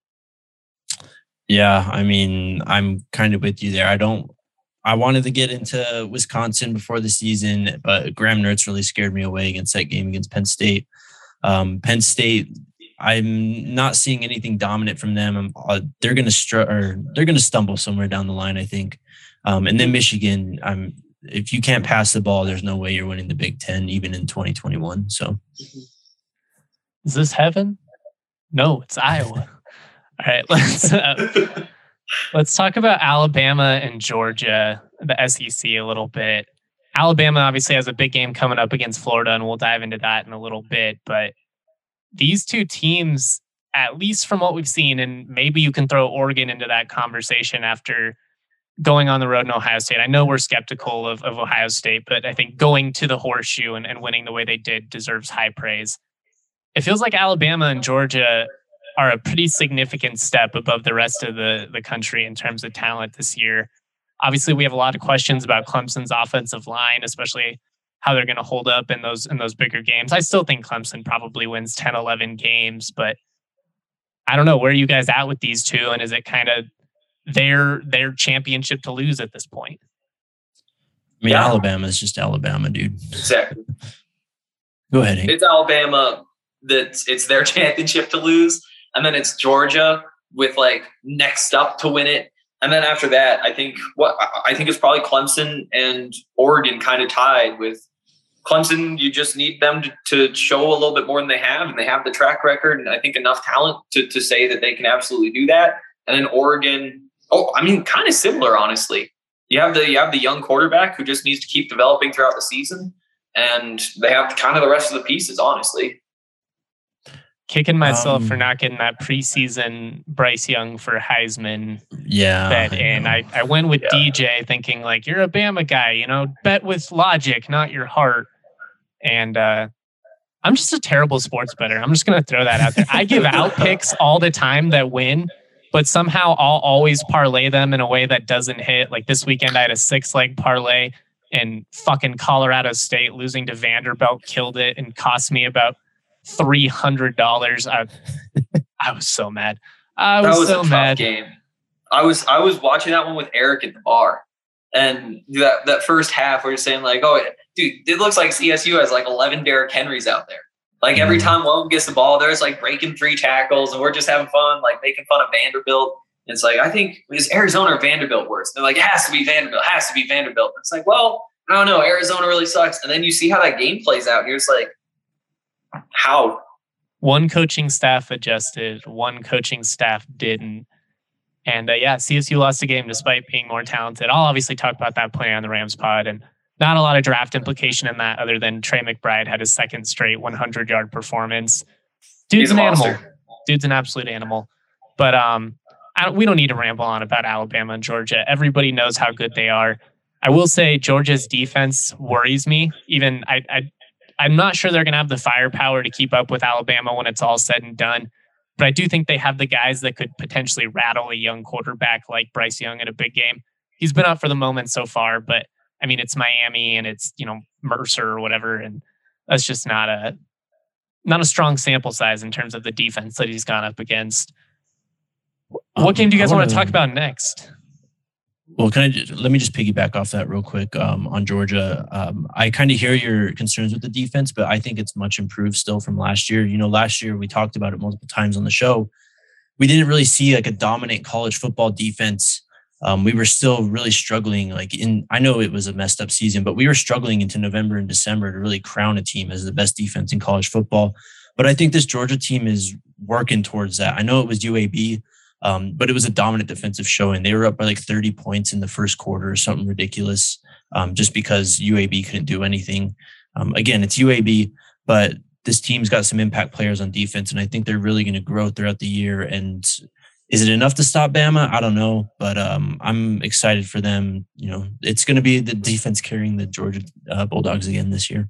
Yeah, I'm kind of with you there. I wanted to get into Wisconsin before the season, but Graham Mertz really scared me away against that game against Penn State. Penn State, I'm not seeing anything dominant from them. They're going to stumble somewhere down the line, I think. And then Michigan, if you can't pass the ball, there's no way you're winning the Big Ten, even in 2021. So, is this heaven? No, it's Iowa. All right, let's talk about Alabama and Georgia, the SEC, a little bit. Alabama obviously has a big game coming up against Florida, and we'll dive into that in a little bit. But these two teams, at least from what we've seen, and maybe you can throw Oregon into that conversation after going on the road in Ohio State. I know we're skeptical of Ohio State, but I think going to the Horseshoe and winning the way they did deserves high praise. It feels like Alabama and Georgia are a pretty significant step above the rest of the country in terms of talent this year. Obviously, we have a lot of questions about Clemson's offensive line, especially how they're going to hold up in those bigger games. I still think Clemson probably wins 10, 11 games, but I don't know. Where are you guys at with these two? And is it kind of their championship to lose at this point? Alabama is just Alabama, dude. Exactly. Go ahead, Hank. It's Alabama it's their championship to lose. And then it's Georgia with next up to win it. And then after that, I think it's probably Clemson and Oregon kind of tied with Clemson. You just need them to show a little bit more than they have, and they have the track record and I think enough talent to say that they can absolutely do that. And then Oregon, kind of similar, honestly. You have the young quarterback who just needs to keep developing throughout the season, and they have kind of the rest of the pieces, honestly. Kicking myself for not getting that preseason Bryce Young for Heisman bet in. I went with DJ thinking you're a Bama guy, bet with logic, not your heart. And I'm just a terrible sports bettor. I'm just going to throw that out there. I give out picks all the time that win, but somehow I'll always parlay them in a way that doesn't hit. Like this weekend, I had a 6-leg parlay and fucking Colorado State losing to Vanderbilt killed it and cost me about $300. I was so mad. I was so mad. Game. I was watching that one with Eric at the bar, and that first half we were saying dude, it looks like CSU has like 11 Derrick Henrys out there. Like every time one of them gets the ball, there's like breaking 3 tackles and we're just having fun, like making fun of Vanderbilt. And it's like, I think, is Arizona or Vanderbilt worse? They're like, it has to be Vanderbilt, It's like, well, I don't know. Arizona really sucks. And then you see how that game plays out. And you're just like, how? One coaching staff adjusted, one coaching staff didn't. And CSU lost the game despite being more talented. I'll obviously talk about that play on the Rams pod, and not a lot of draft implication in that other than Trey McBride had his second straight 100-yard performance. Dude's an animal. Dude's an absolute animal. But we don't need to ramble on about Alabama and Georgia. Everybody knows how good they are. I will say Georgia's defense worries me. Even I'm not sure they're going to have the firepower to keep up with Alabama when it's all said and done. But I do think they have the guys that could potentially rattle a young quarterback like Bryce Young in a big game. He's been up for the moment so far, but I mean, it's Miami and it's, Mercer or whatever. And that's just not a strong sample size in terms of the defense that he's gone up against. What game do you guys want to talk about next? Well, let me just piggyback off that real quick on Georgia. I kind of hear your concerns with the defense, but I think it's much improved still from last year. Last year we talked about it multiple times on the show. We didn't really see like a dominant college football defense. We were still really struggling. I know it was a messed up season, but we were struggling into November and December to really crown a team as the best defense in college football. But I think this Georgia team is working towards that. I know it was UAB. But it was a dominant defensive showing. They were up by like 30 points in the first quarter or something ridiculous, just because UAB couldn't do anything. Again, it's UAB, but this team's got some impact players on defense, and I think they're really going to grow throughout the year. And is it enough to stop Bama? I don't know, but I'm excited for them. It's going to be the defense carrying the Georgia Bulldogs again this year.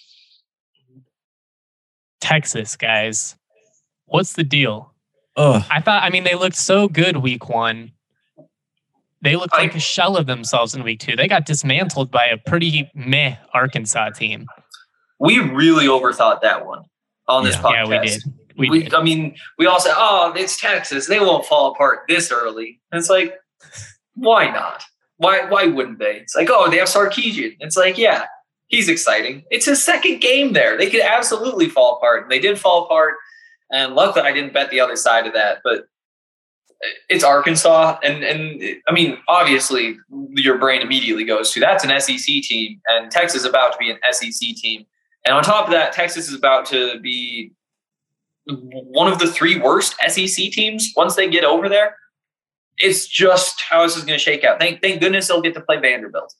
Texas, guys. What's the deal? Oh, they looked so good week 1. They looked like a shell of themselves in week 2. They got dismantled by a pretty meh Arkansas team. We really overthought that one on this podcast. Yeah, we did. I mean, we all said, oh, it's Texas. They won't fall apart this early. And it's like, why not? Why wouldn't they? It's like, oh, they have Sarkisian. It's like, yeah, he's exciting. It's his second game there. They could absolutely fall apart. And they did fall apart. And luckily, I didn't bet the other side of that. But it's Arkansas. And I mean, obviously, your brain immediately goes to that's an SEC team. And Texas is about to be an SEC team. And on top of that, Texas is about to be one of the 3 worst SEC teams once they get over there. It's just how this is going to shake out. Thank goodness they'll get to play Vanderbilt.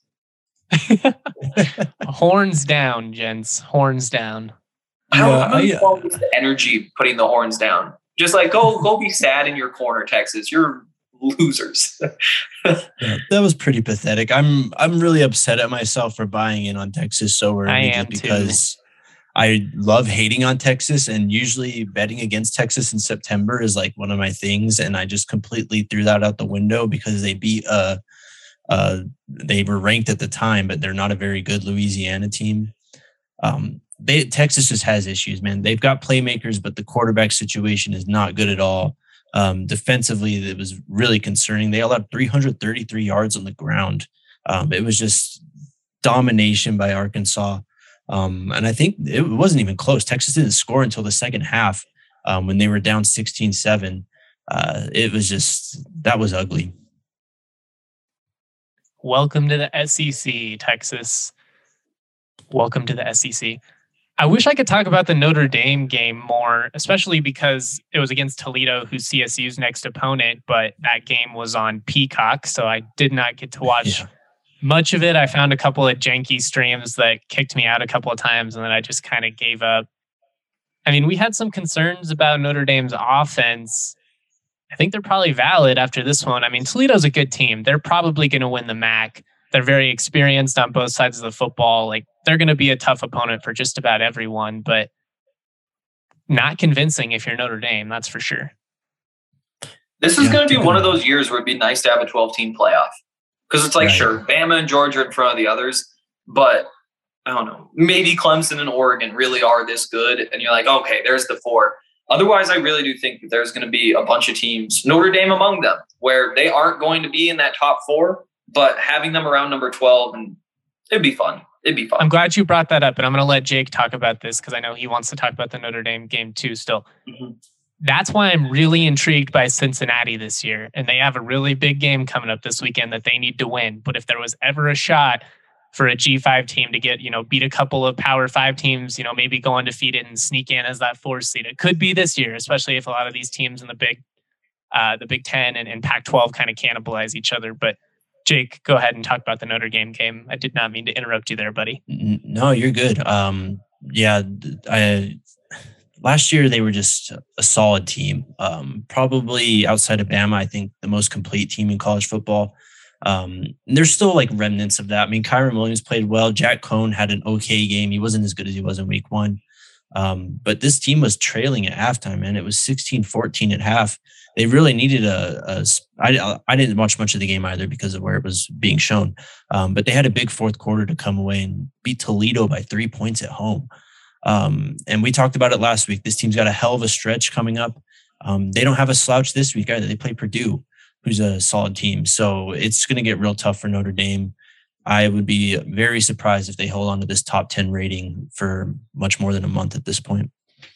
Horns down, gents. Horns down. How many is the energy putting the horns down? Just like go be sad in your corner, Texas. You're losers. Yeah, that was pretty pathetic. I'm really upset at myself for buying in on Texas so early. I am because I love hating on Texas, and usually betting against Texas in September is like one of my things, and I just completely threw that out the window because they beat they were ranked at the time, but they're not a very good Louisiana team. Texas just has issues, man. They've got playmakers, but the quarterback situation is not good at all. Defensively, it was really concerning. They allowed 333 yards on the ground. It was just domination by Arkansas. And I think it wasn't even close. Texas didn't score until the second half when they were down 16-7. It was just, that was ugly. Welcome to the SEC, Texas. Welcome to the SEC. I wish I could talk about the Notre Dame game more, especially because it was against Toledo, who's CSU's next opponent, but that game was on Peacock, so I did not get to watch much of it. I found a couple of janky streams that kicked me out a couple of times, and then I just kind of gave up. I mean, we had some concerns about Notre Dame's offense. I think they're probably valid after this one. I mean, Toledo's a good team. They're probably going to win the MAC. They're very experienced on both sides of the football. Like, they're going to be a tough opponent for just about everyone, but not convincing if you're Notre Dame, that's for sure. This is going to be one of those years where it'd be nice to have a 12-team playoff. Because it's like, sure, Bama and Georgia are in front of the others, but I don't know, maybe Clemson and Oregon really are this good. And you're like, okay, there's the 4. Otherwise, I really do think that there's going to be a bunch of teams, Notre Dame among them, where they aren't going to be in that top 4, but having them around number 12, and it'd be fun. It'd be fun. I'm glad you brought that up, and I'm going to let Jake talk about this because I know he wants to talk about the Notre Dame game too still. Mm-hmm. That's why I'm really intrigued by Cincinnati this year. And they have a really big game coming up this weekend that they need to win. But if there was ever a shot for a G5 team to get, beat a couple of Power 5 teams, maybe go undefeated and sneak in as that 4th seed, it could be this year, especially if a lot of these teams in the Big Ten and Pac-12 kind of cannibalize each other. But Jake, go ahead and talk about the Notre Dame game. I did not mean to interrupt you there, buddy. No, you're good. Last year, they were just a solid team. Probably outside of Bama, I think the most complete team in college football. There's still like remnants of that. I mean, Kyron Williams played well. Jack Cohn had an okay game. He wasn't as good as he was in week 1. But this team was trailing at halftime, and it was 16-14 at half. They really needed I didn't watch much of the game either because of where it was being shown. But they had a big fourth quarter to come away and beat Toledo by 3 points at home. And we talked about it last week. This team's got a hell of a stretch coming up. They don't have a slouch this week either. They play Purdue, who's a solid team. So it's going to get real tough for Notre Dame. I would be very surprised if they hold on to this top 10 rating for much more than a month at this point.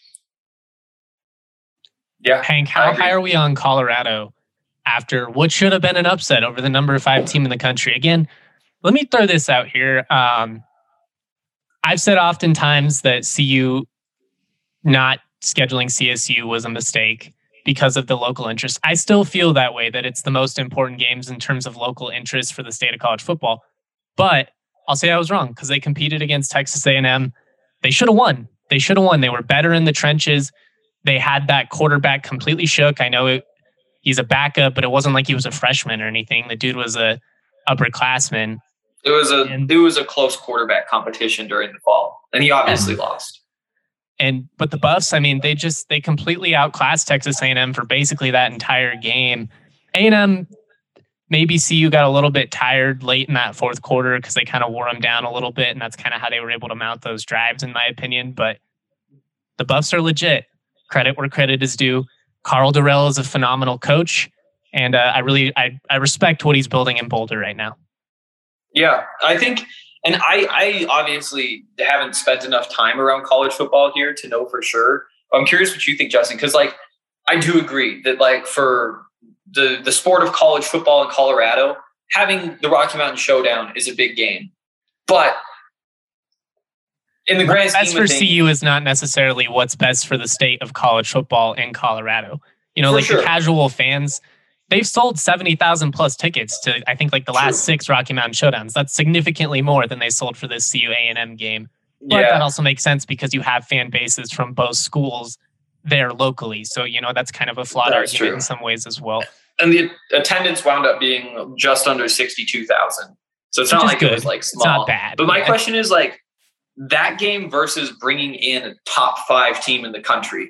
Yeah. Hank, how high are we on Colorado after what should have been an upset over the number 5 team in the country? Again, let me throw this out here. I've said oftentimes that CU not scheduling CSU was a mistake because of the local interest. I still feel that way, that it's the most important games in terms of local interest for the state of college football. But I'll say I was wrong because they competed against Texas A&M. They should have won. They were better in the trenches. They had that quarterback completely shook. I know he's a backup, but it wasn't like he was a freshman or anything. The dude was a upperclassman. It was a close quarterback competition during the fall, and he obviously lost. But the Buffs, I mean, they completely outclassed Texas A&M for basically that entire game. A&M, maybe CU got a little bit tired late in that fourth quarter because they kind of wore them down a little bit, and that's kind of how they were able to mount those drives, in my opinion. But the Buffs are legit. Credit where credit is due. Karl Dorrell is a phenomenal coach, and I respect what he's building in Boulder right now. Yeah, I think, and I obviously haven't spent enough time around college football here to know for sure. I'm curious what you think, Justin, because I do agree that for the sport of college football in Colorado, having the Rocky Mountain Showdown is a big game. But in the grand scheme of things, what's best for CU is not necessarily what's best for the state of college football in Colorado. The casual fans, they've sold 70,000 plus tickets to, I think, the last 6 Rocky Mountain Showdowns. That's significantly more than they sold for this CU A&M game. But that also makes sense because you have fan bases from both schools there locally. So, that's kind of a flawed argument in some ways as well. And the attendance wound up being just under 62,000. So it's not like it was small. It's not bad. But my question is that game versus bringing in a top 5 team in the country,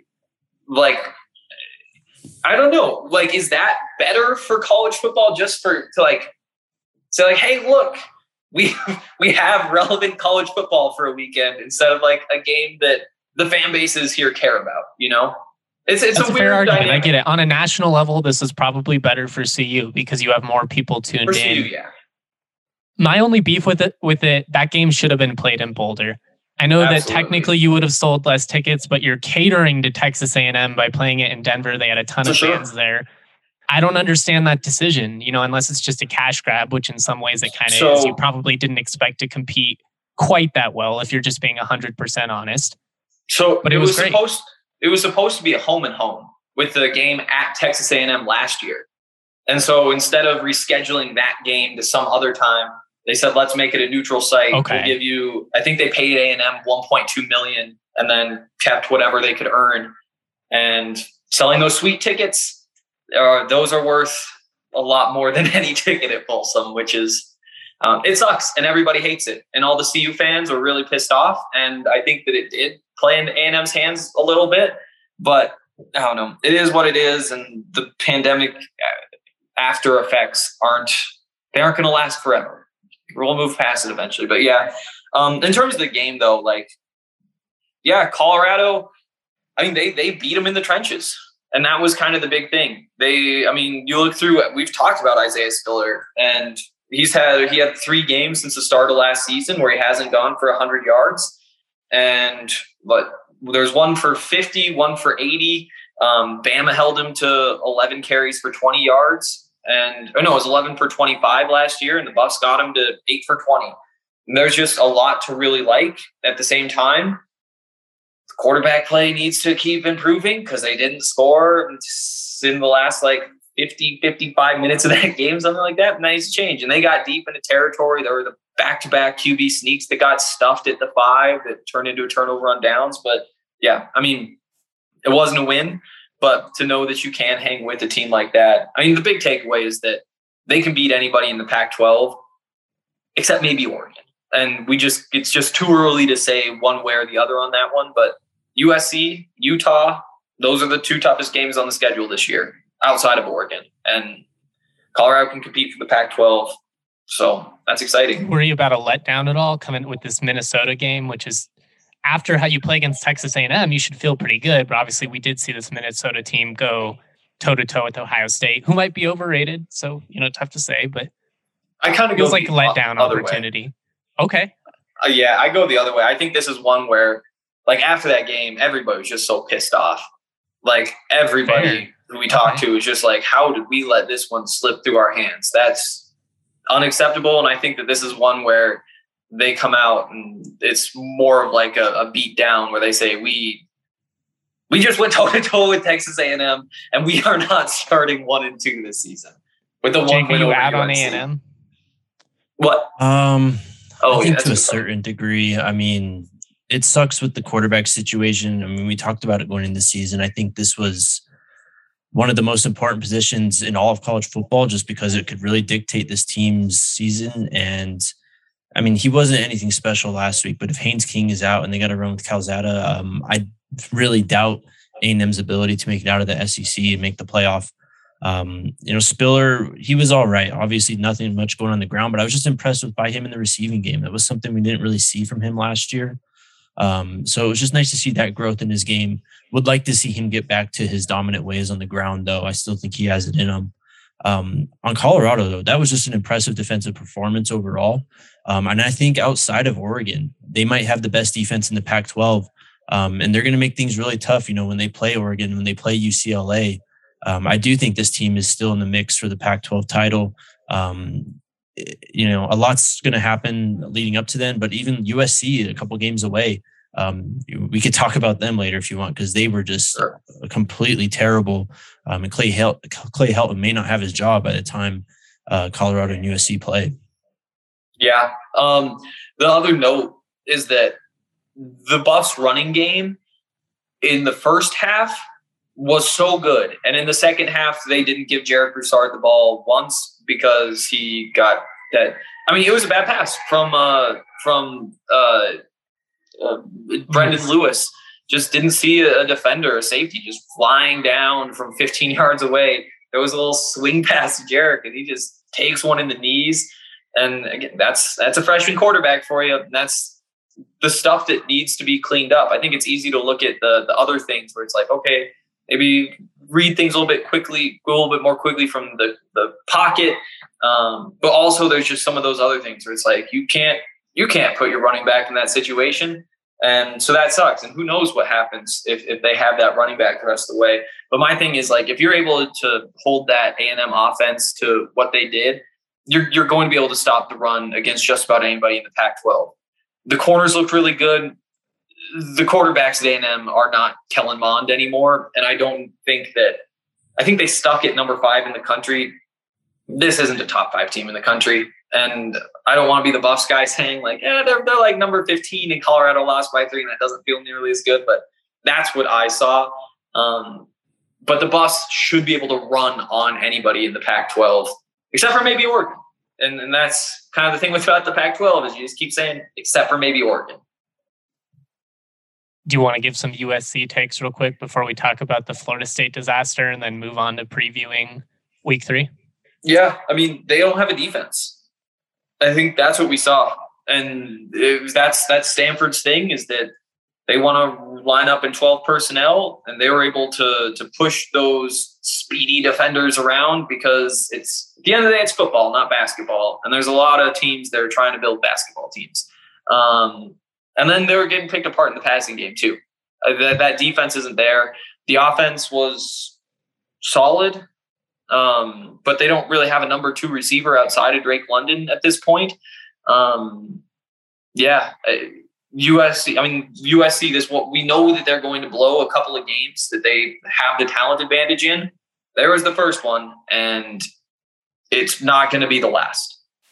I don't know. Is that better for college football just to say hey, look, we have relevant college football for a weekend instead of a game that the fan bases here care about, It's a weird fair argument. dynamic. I get it. On a national level, this is probably better for CU because you have more people tuned for in. CU, yeah. My only beef with it, that game should have been played in Boulder. I know that technically you would have sold less tickets, but you're catering to Texas A&M by playing it in Denver. They had a ton of fans there. I don't understand that decision, unless it's just a cash grab, which in some ways it kind of is. You probably didn't expect to compete quite that well if you're just being 100% honest. So, but it was great. It was supposed to be a home and home with the game at Texas A&M last year. And so instead of rescheduling that game to some other time, they said, let's make it a neutral site. Okay. We'll give you, I think they paid A&M $1.2 million and then kept whatever they could earn. And selling those sweet tickets, those are worth a lot more than any ticket at Folsom, which is, it sucks and everybody hates it. And all the CU fans were really pissed off. And I think that it did play into A&M's hands a little bit, but I don't know. It is what it is. And the pandemic after effects aren't going to last forever. We'll move past it eventually. But yeah, in terms of the game though, Colorado, I mean, they beat them in the trenches. And that was kind of the big thing. You look through it. We've talked about Isaiah Spiller and he had 3 games since the start of last season where he hasn't gone for 100 yards. But there's one for 50, one for 80. Bama held him to 11 carries for 20 yards. It was 11 for 25 last year, and the Buffs got him to 8 for 20. And there's just a lot to really like. At the same time, the quarterback play needs to keep improving because they didn't score in the last 50, 55 minutes of that game, something like that. Nice change. And they got deep into territory. There were the back-to-back QB sneaks that got stuffed at the 5 that turned into a turnover on downs. But yeah, I mean, it wasn't a win, but to know that you can hang with a team like that. I mean, the big takeaway is that they can beat anybody in the Pac-12 except maybe Oregon. And it's just too early to say one way or the other on that one. But USC, Utah, those are the 2 toughest games on the schedule this year outside of Oregon. And Colorado can compete for the Pac-12. So that's exciting. Were you about a letdown at all coming with this Minnesota game, which is after how you play against Texas A&M, you should feel pretty good. But obviously we did see this Minnesota team go toe-to-toe with Ohio State, who might be overrated. So, tough to say, but I kind of feels like a letdown opportunity. Okay. Yeah, I go the other way. I think this is one where, after that game, everybody was just so pissed off. Everybody who we talked to was just how did we let this one slip through our hands? That's unacceptable. And I think that this is one where they come out and it's more of a beat down where they say, we just went toe to toe with Texas A&M and we are not starting 1 and 2 this season with the one win over out UNC. On A&M? What? I think to a certain degree. I mean, it sucks with the quarterback situation. I mean, we talked about it going into the season. I think this was one of the most important positions in all of college football just because it could really dictate this team's season. And I mean, he wasn't anything special last week, but if Haynes King is out and they got to run with Calzada, I really doubt A&M's ability to make it out of the SEC and make the playoff. Spiller, he was all right. Obviously, nothing much going on the ground, but I was just impressed by him in the receiving game. That was something we didn't really see from him last year. So it was just nice to see that growth in his game. Would like to see him get back to his dominant ways on the ground, though. I still think he has it in him. On Colorado, though, that was just an impressive defensive performance overall. And I think outside of Oregon, they might have the best defense in the Pac-12. And they're going to make things really tough, when they play Oregon, when they play UCLA. I do think this team is still in the mix for the Pac-12 title. A lot's going to happen leading up to then, but even USC a couple games away. We could talk about them later if you want, because they were just completely terrible. And Clay Helton may not have his job by the time Colorado and USC play. Yeah. The other note is that the Buffs running game in the first half was so good. And in the second half, they didn't give Jarek Broussard the ball once because he got that. I mean, it was a bad pass from Brendan Lewis. Just didn't see a defender, a safety, just flying down from 15 yards away. There was a little swing pass to Jarek, and he just takes one in the knees. And again, that's a freshman quarterback for you. And that's the stuff that needs to be cleaned up. I think it's easy to look at the other things where it's okay, maybe read things a little bit quickly, go a little bit more quickly from the pocket. But also there's just some of those other things where it's you can't put your running back in that situation. And so that sucks. And who knows what happens if they have that running back the rest of the way. But my thing is if you're able to hold that A&M offense to what they did, you're going to be able to stop the run against just about anybody in the Pac-12. The corners looked really good. The quarterbacks at A&M are not Kellen Mond anymore. And I think they stuck at number 5 in the country. This isn't a top 5 team in the country. And I don't want to be the Buffs guy saying they're number 15 and Colorado lost by 3 and that doesn't feel nearly as good. But that's what I saw. But the Buffs should be able to run on anybody in the Pac-12, except for maybe Oregon. And that's kind of the thing about the Pac-12 is you just keep saying, except for maybe Oregon. Do you want to give some USC takes real quick before we talk about the Florida State disaster and then move on to previewing week 3? Yeah. I mean, they don't have a defense. I think that's what we saw. And that's Stanford's thing is that they want to line up in 12 personnel, and they were able to push those speedy defenders around, because it's at the end of the day, it's football, not basketball. And there's a lot of teams that are trying to build basketball teams. And then they were getting picked apart in the passing game too. That defense isn't there. The offense was solid, but they don't really have a number 2 receiver outside of Drake London at this point. USC, this what we know that they're going to blow a couple of games that they have the talent advantage in. There was the first one, and it's not going to be the last.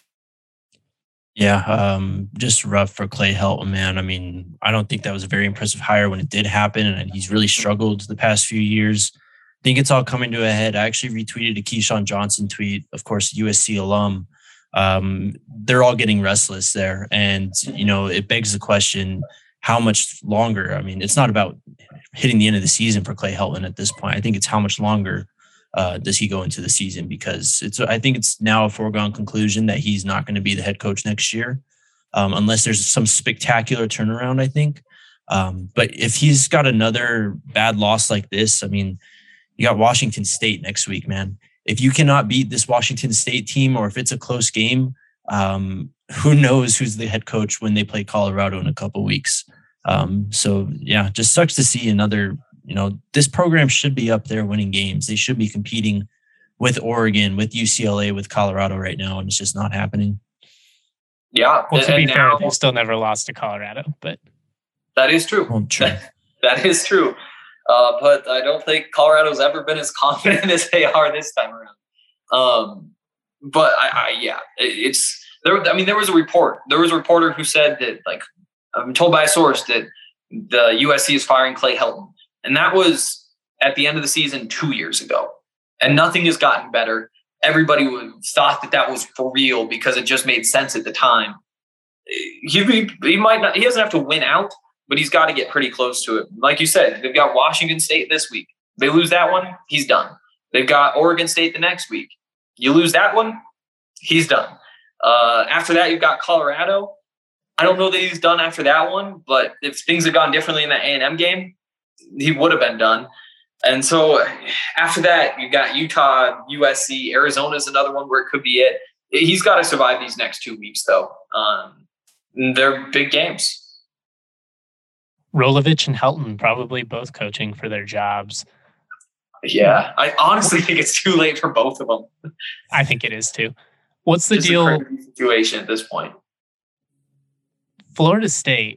Yeah, just rough for Clay Helton, man. I mean, I don't think that was a very impressive hire when it did happen, and he's really struggled the past few years. I think it's all coming to a head. I actually retweeted a Keyshawn Johnson tweet, of course, USC alum. They're all getting restless there, and it begs the question: how much longer? I mean, it's not about hitting the end of the season for Clay Helton at this point. I think it's how much longer does he go into the season, because I think it's now a foregone conclusion that he's not going to be the head coach next year, unless there's some spectacular turnaround, I think. But if he's got another bad loss like this, I mean, you got Washington State next week, man. If you cannot beat this Washington State team, or if it's a close game, who knows who's the head coach when they play Colorado in a couple of weeks. So yeah, just sucks to see another. This program should be up there winning games. They should be competing with Oregon, with UCLA, with Colorado right now, and it's just not happening. Yeah. Well, to be fair, they still never lost to Colorado, but that is true. Well, true. That is true. But I don't think Colorado's ever been as confident as they are this time around. But it's there. I mean, there was a report. There was a reporter who said that, like, I'm told by a source that the USC is firing Clay Helton. And that was at the end of the season 2 years ago. And nothing has gotten better. Everybody thought that was for real because it just made sense at the time. He might not. He doesn't have to win out, but he's got to get pretty close to it. Like you said, they've got Washington State this week. They lose that one, he's done. They've got Oregon State the next week. You lose that one, he's done. After that, you've got Colorado. I don't know that he's done after that one, but if things had gone differently in that A&M game, he would have been done. And so after that, you got Utah, USC, Arizona's another one where it could be it. He's got to survive these next 2 weeks, though. They're big games. Rolovich and Helton probably both coaching for their jobs. Yeah, I honestly think it's too late for both of them. I think it is too. What's the Just deal? a crazy situation at this point. Florida State.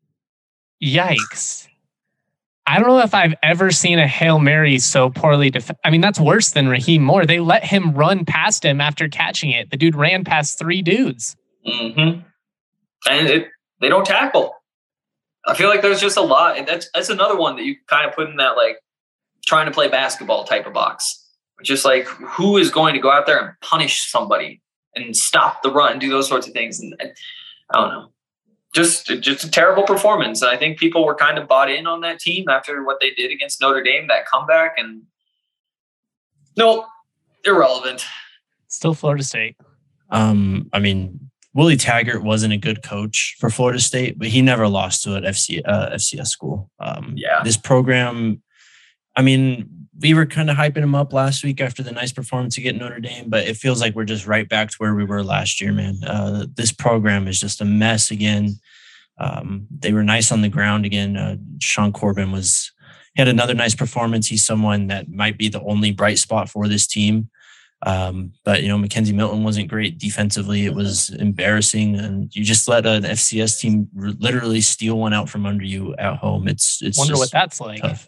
Yikes. I don't know if I've ever seen a Hail Mary so poorly I mean, that's worse than Raheem Moore. They let him run past him after catching it. The dude ran past 3 dudes. Mm-hmm. And they don't tackle. I feel like there's just a lot. And that's another one that you kind of put in that, like, trying to play basketball type of box. Just like, who is going to go out there and punish somebody and stop the run and do those sorts of things? And I don't know. Just a terrible performance. And I think people were kind of bought in on that team after what they did against Notre Dame, that comeback. And nope, irrelevant. Still Florida State. I mean, Willie Taggart wasn't a good coach for Florida State, but he never lost to an FCS school. This program, I mean, we were kind of hyping him up last week after the nice performance against Notre Dame, but it feels like we're just right back to where we were last year, man. This program is just a mess again. They were nice on the ground again. Sean Corbin had another nice performance. He's someone that might be the only bright spot for this team. But Mackenzie Milton wasn't great defensively. It was embarrassing, and you just let an FCS team literally steal one out from under you at home. It's wonder what that's like. Tough.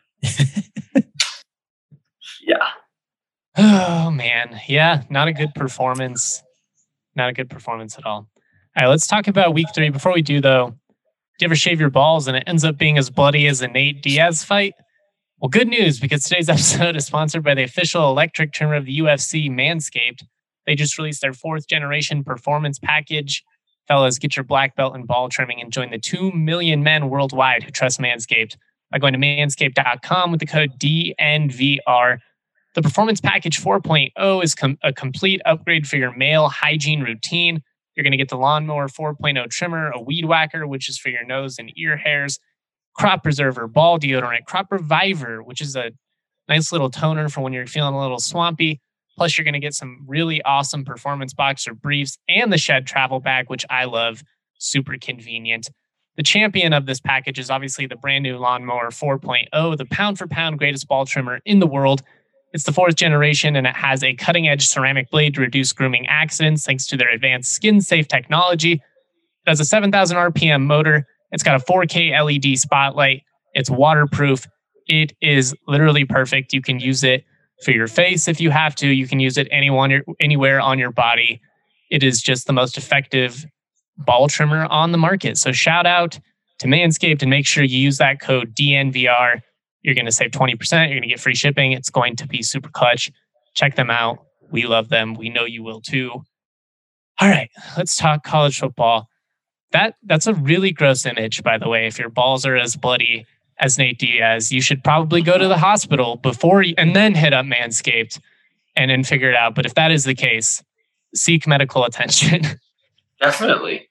Yeah. Oh man. Yeah. Not a good performance. Not a good performance at all. All right. Let's talk about week 3. Before we do, though, do you ever shave your balls and it ends up being as bloody as a Nate Diaz fight? Well, good news, because today's episode is sponsored by the official electric trimmer of the UFC, Manscaped. They just released their 4th generation performance package. Fellas, get your black belt in ball trimming and join the 2 million men worldwide who trust Manscaped by going to manscaped.com with the code DNVR. The Performance Package 4.0 is a complete upgrade for your male hygiene routine. You're going to get the Lawnmower 4.0 trimmer, a Weed Whacker, which is for your nose and ear hairs, Crop Preserver, Ball Deodorant, Crop Reviver, which is Nice little toner for when you're feeling a little swampy. Plus, you're going to get some really awesome performance boxer briefs and the Shed travel bag, which I love. Super convenient. The champion of this package is obviously the brand new Lawnmower 4.0, the pound for pound greatest ball trimmer in the world. It's the 4th generation, and it has a cutting-edge ceramic blade to reduce grooming accidents thanks to their advanced skin-safe technology. It has a 7,000 RPM motor. It's got a 4K LED spotlight. It's waterproof. It is literally perfect. You can use it for your face if you have to. You can use it anywhere on your body. It is just the most effective ball trimmer on the market. So shout out to Manscaped and make sure you use that code DNVR. You're going to save 20%. You're going to get free shipping. It's going to be super clutch. Check them out. We love them. We know you will too. All right, let's talk college football. That's a really gross image, by the way. If your balls are as bloody as Nate Diaz, you should probably go to the hospital before and then hit up Manscaped and then figure it out. But if that is the case, seek medical attention. Definitely.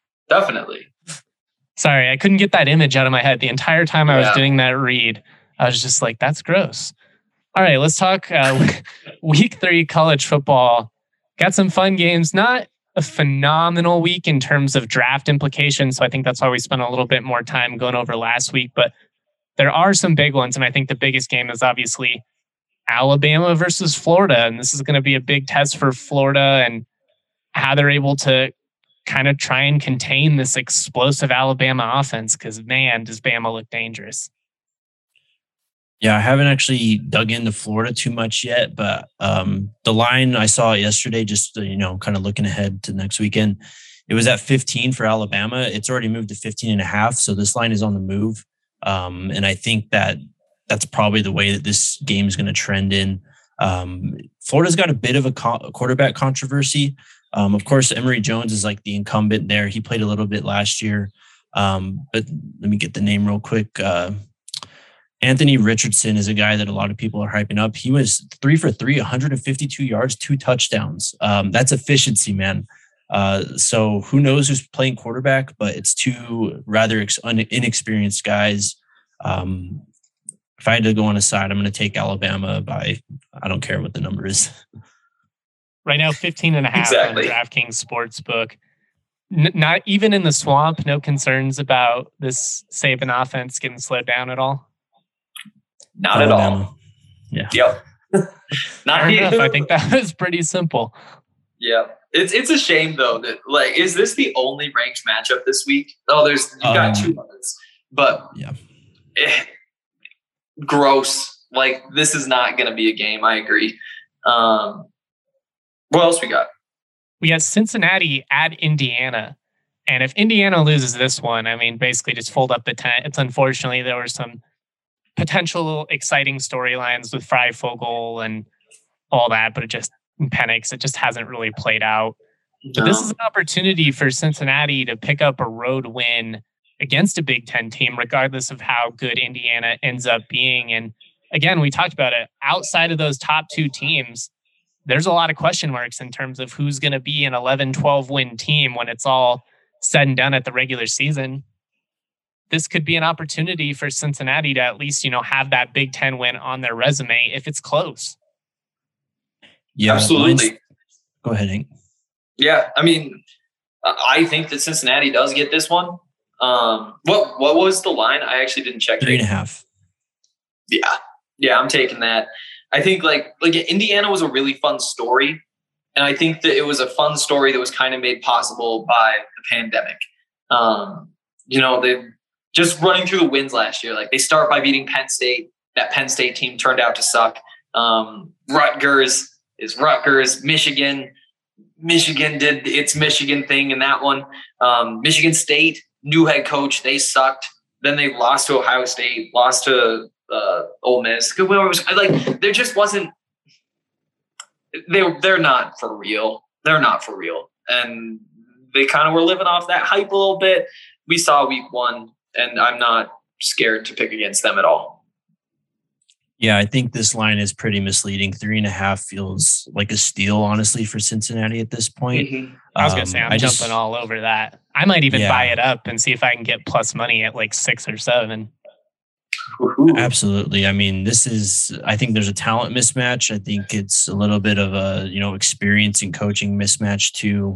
Sorry, I couldn't get that image out of my head the entire time I was doing that read. I was just like, that's gross. All right, let's talk week 3 college football. Got some fun games. Not a phenomenal week in terms of draft implications. So I think that's why we spent a little bit more time going over last week. But there are some big ones. And I think the biggest game is obviously Alabama versus Florida. And this is going to be a big test for Florida and how they're able to kind of try and contain this explosive Alabama offense. Because, man, does Bama look dangerous. Yeah, I haven't actually dug into Florida too much yet, but the line I saw yesterday, just, kind of looking ahead to next weekend, it was at 15 for Alabama. It's already moved to 15.5. So this line is on the move. And I think that's probably the way that this game is going to trend in. Florida's got a bit of a quarterback controversy. Of course, Emory Jones is like the incumbent there. He played a little bit last year. But let me get the name real quick. Anthony Richardson is a guy that a lot of people are hyping up. He was 3 for 3, 152 yards, 2 touchdowns. That's efficiency, man. So who knows who's playing quarterback, but it's 2 rather inexperienced guys. If I had to go on a side, I'm going to take Alabama by, I don't care what the number is. Right now, 15.5 exactly. on DraftKings Sportsbook. Not even in the swamp, no concerns about this Saban offense getting slowed down at all? Not at all. Yeah. Yep. Not enough. I think that was pretty simple. Yeah. It's a shame though that is this the only ranked matchup this week? Oh, you've got 2 others. But yeah. Gross. This is not gonna be a game. I agree. What else we got? We got Cincinnati at Indiana. And if Indiana loses this one, I mean, basically just fold up the tent. It's unfortunately there were some potential exciting storylines with Freifogel and all that, but Penix, it just hasn't really played out. But this is an opportunity for Cincinnati to pick up a road win against a Big Ten team, regardless of how good Indiana ends up being. And again, we talked about it. Outside of those top 2 teams, there's a lot of question marks in terms of who's going to be an 11-12 win team when it's all said and done at the regular season. This could be an opportunity for Cincinnati to at least, have that Big Ten win on their resume if it's close. Yeah, absolutely. Go ahead, Hank. Yeah, I mean, I think that Cincinnati does get this one. What was the line? I actually didn't check. 3.5. Yeah, I'm taking that. I think like Indiana was a really fun story, and I think that it was a fun story that was kind of made possible by the pandemic. They just running through the wins last year. They start by beating Penn State. That Penn State team turned out to suck. Rutgers is Rutgers. Michigan did its Michigan thing in that one. Michigan State, new head coach, they sucked. Then they lost to Ohio State, lost to Ole Miss. There just wasn't. They're not for real. They're not for real, and they kind of were living off that hype a little bit. We saw week 1, and I'm not scared to pick against them at all. Yeah, I think this line is pretty misleading. 3.5 feels like a steal, honestly, for Cincinnati at this point. Mm-hmm. I was going to say, I'm jumping all over that. I might even buy it up and see if I can get plus money at 6 or 7. Absolutely. I mean, I think there's a talent mismatch. I think it's a little bit of a, experience and coaching mismatch too.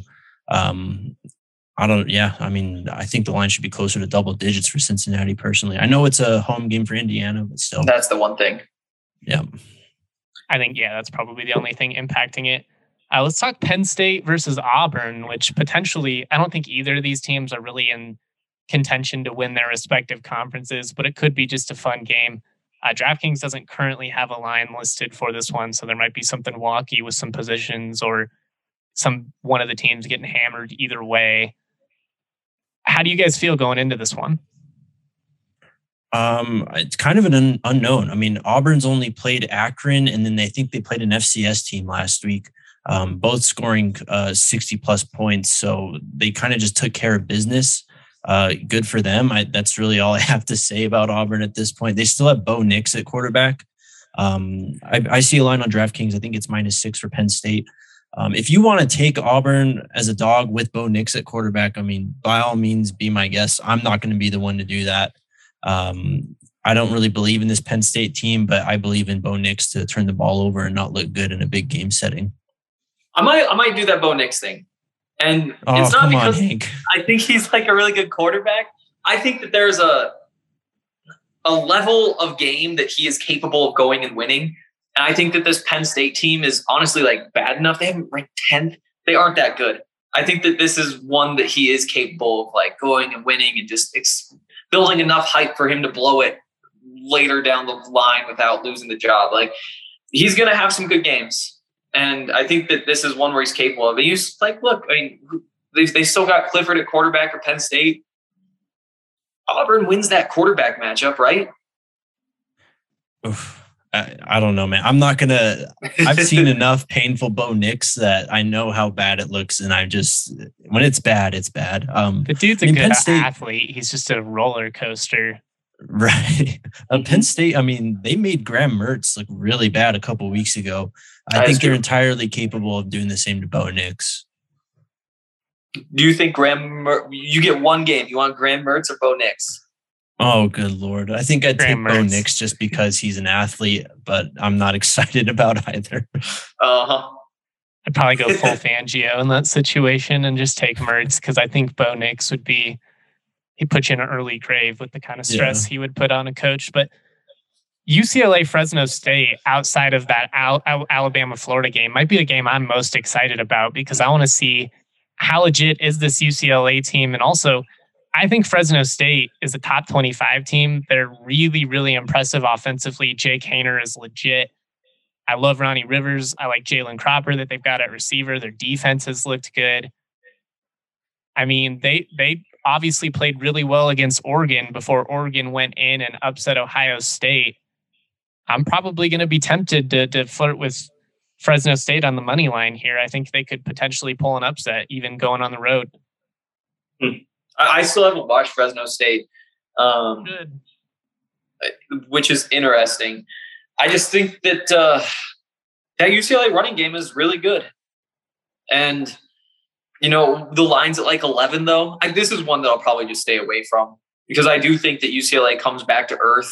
I mean, I think the line should be closer to double digits for Cincinnati personally. I know it's a home game for Indiana, but still. That's the one thing. Yeah. I think, that's probably the only thing impacting it. Let's talk Penn State versus Auburn, which potentially, I don't think either of these teams are really in contention to win their respective conferences, but it could be just a fun game. DraftKings doesn't currently have a line listed for this one, so there might be something wonky with some positions or one of the teams getting hammered either way. How do you guys feel going into this one? It's kind of an unknown. I mean, Auburn's only played Akron, and then they played an FCS team last week, both scoring 60 plus points. So they kind of just took care of business. Good for them. That's really all I have to say about Auburn at this point. They still have Bo Nix at quarterback. I see a line on DraftKings. I think it's -6 for Penn State. If you want to take Auburn as a dog with Bo Nix at quarterback, I mean, by all means, be my guest. I'm not going to be the one to do that. I don't really believe in this Penn State team, but I believe in Bo Nix to turn the ball over and not look good in a big game setting. I might do that Bo Nix thing. And it's not because I think he's like a really good quarterback. I think that there's a level of game that he is capable of going and winning. And I think that this Penn State team is honestly like bad enough. They haven't ranked 10th. They aren't that good. I think that this is one that he is capable of like going and winning and just building enough hype for him to blow it later down the line without losing the job. Like, he's going to have some good games. And I think that this is one where he's capable of it. He's like, look, I mean, they still got Clifford at quarterback at Penn State. Auburn wins that quarterback matchup, right? Oof. I don't know, man. I'm not going to – I've seen enough painful Bo Nix that I know how bad it looks, and when it's bad, it's bad. The dude's a good athlete. He's just a roller coaster. Right. Penn State, I mean, they made Graham Mertz look really bad a couple of weeks ago. I think they're entirely capable of doing the same to Bo Nix. Do you think you get one game? You want Graham Mertz or Bo Nix? Oh, good Lord. I think I'd take Bo Nix just because he's an athlete, but I'm not excited about either. Uh-huh. I'd probably go full Fangio in that situation and just take Mertz because I think Bo Nix he'd put you in an early grave with the kind of stress he would put on a coach. But UCLA Fresno State, outside of that Alabama Florida game, might be the game I'm most excited about because I want to see how legit is this UCLA team. And also, I think Fresno State is a top 25 team. They're really, really impressive offensively. Jake Haener is legit. I love Ronnie Rivers. I like Jalen Cropper that they've got at receiver. Their defense has looked good. I mean, they obviously played really well against Oregon before Oregon went in and upset Ohio State. I'm probably going to be tempted to flirt with Fresno State on the money line here. I think they could potentially pull an upset, even going on the road. I still haven't watched Fresno State, which is interesting. I just think that that UCLA running game is really good. And, the line's at like 11, though. This is one that I'll probably just stay away from because I do think that UCLA comes back to earth.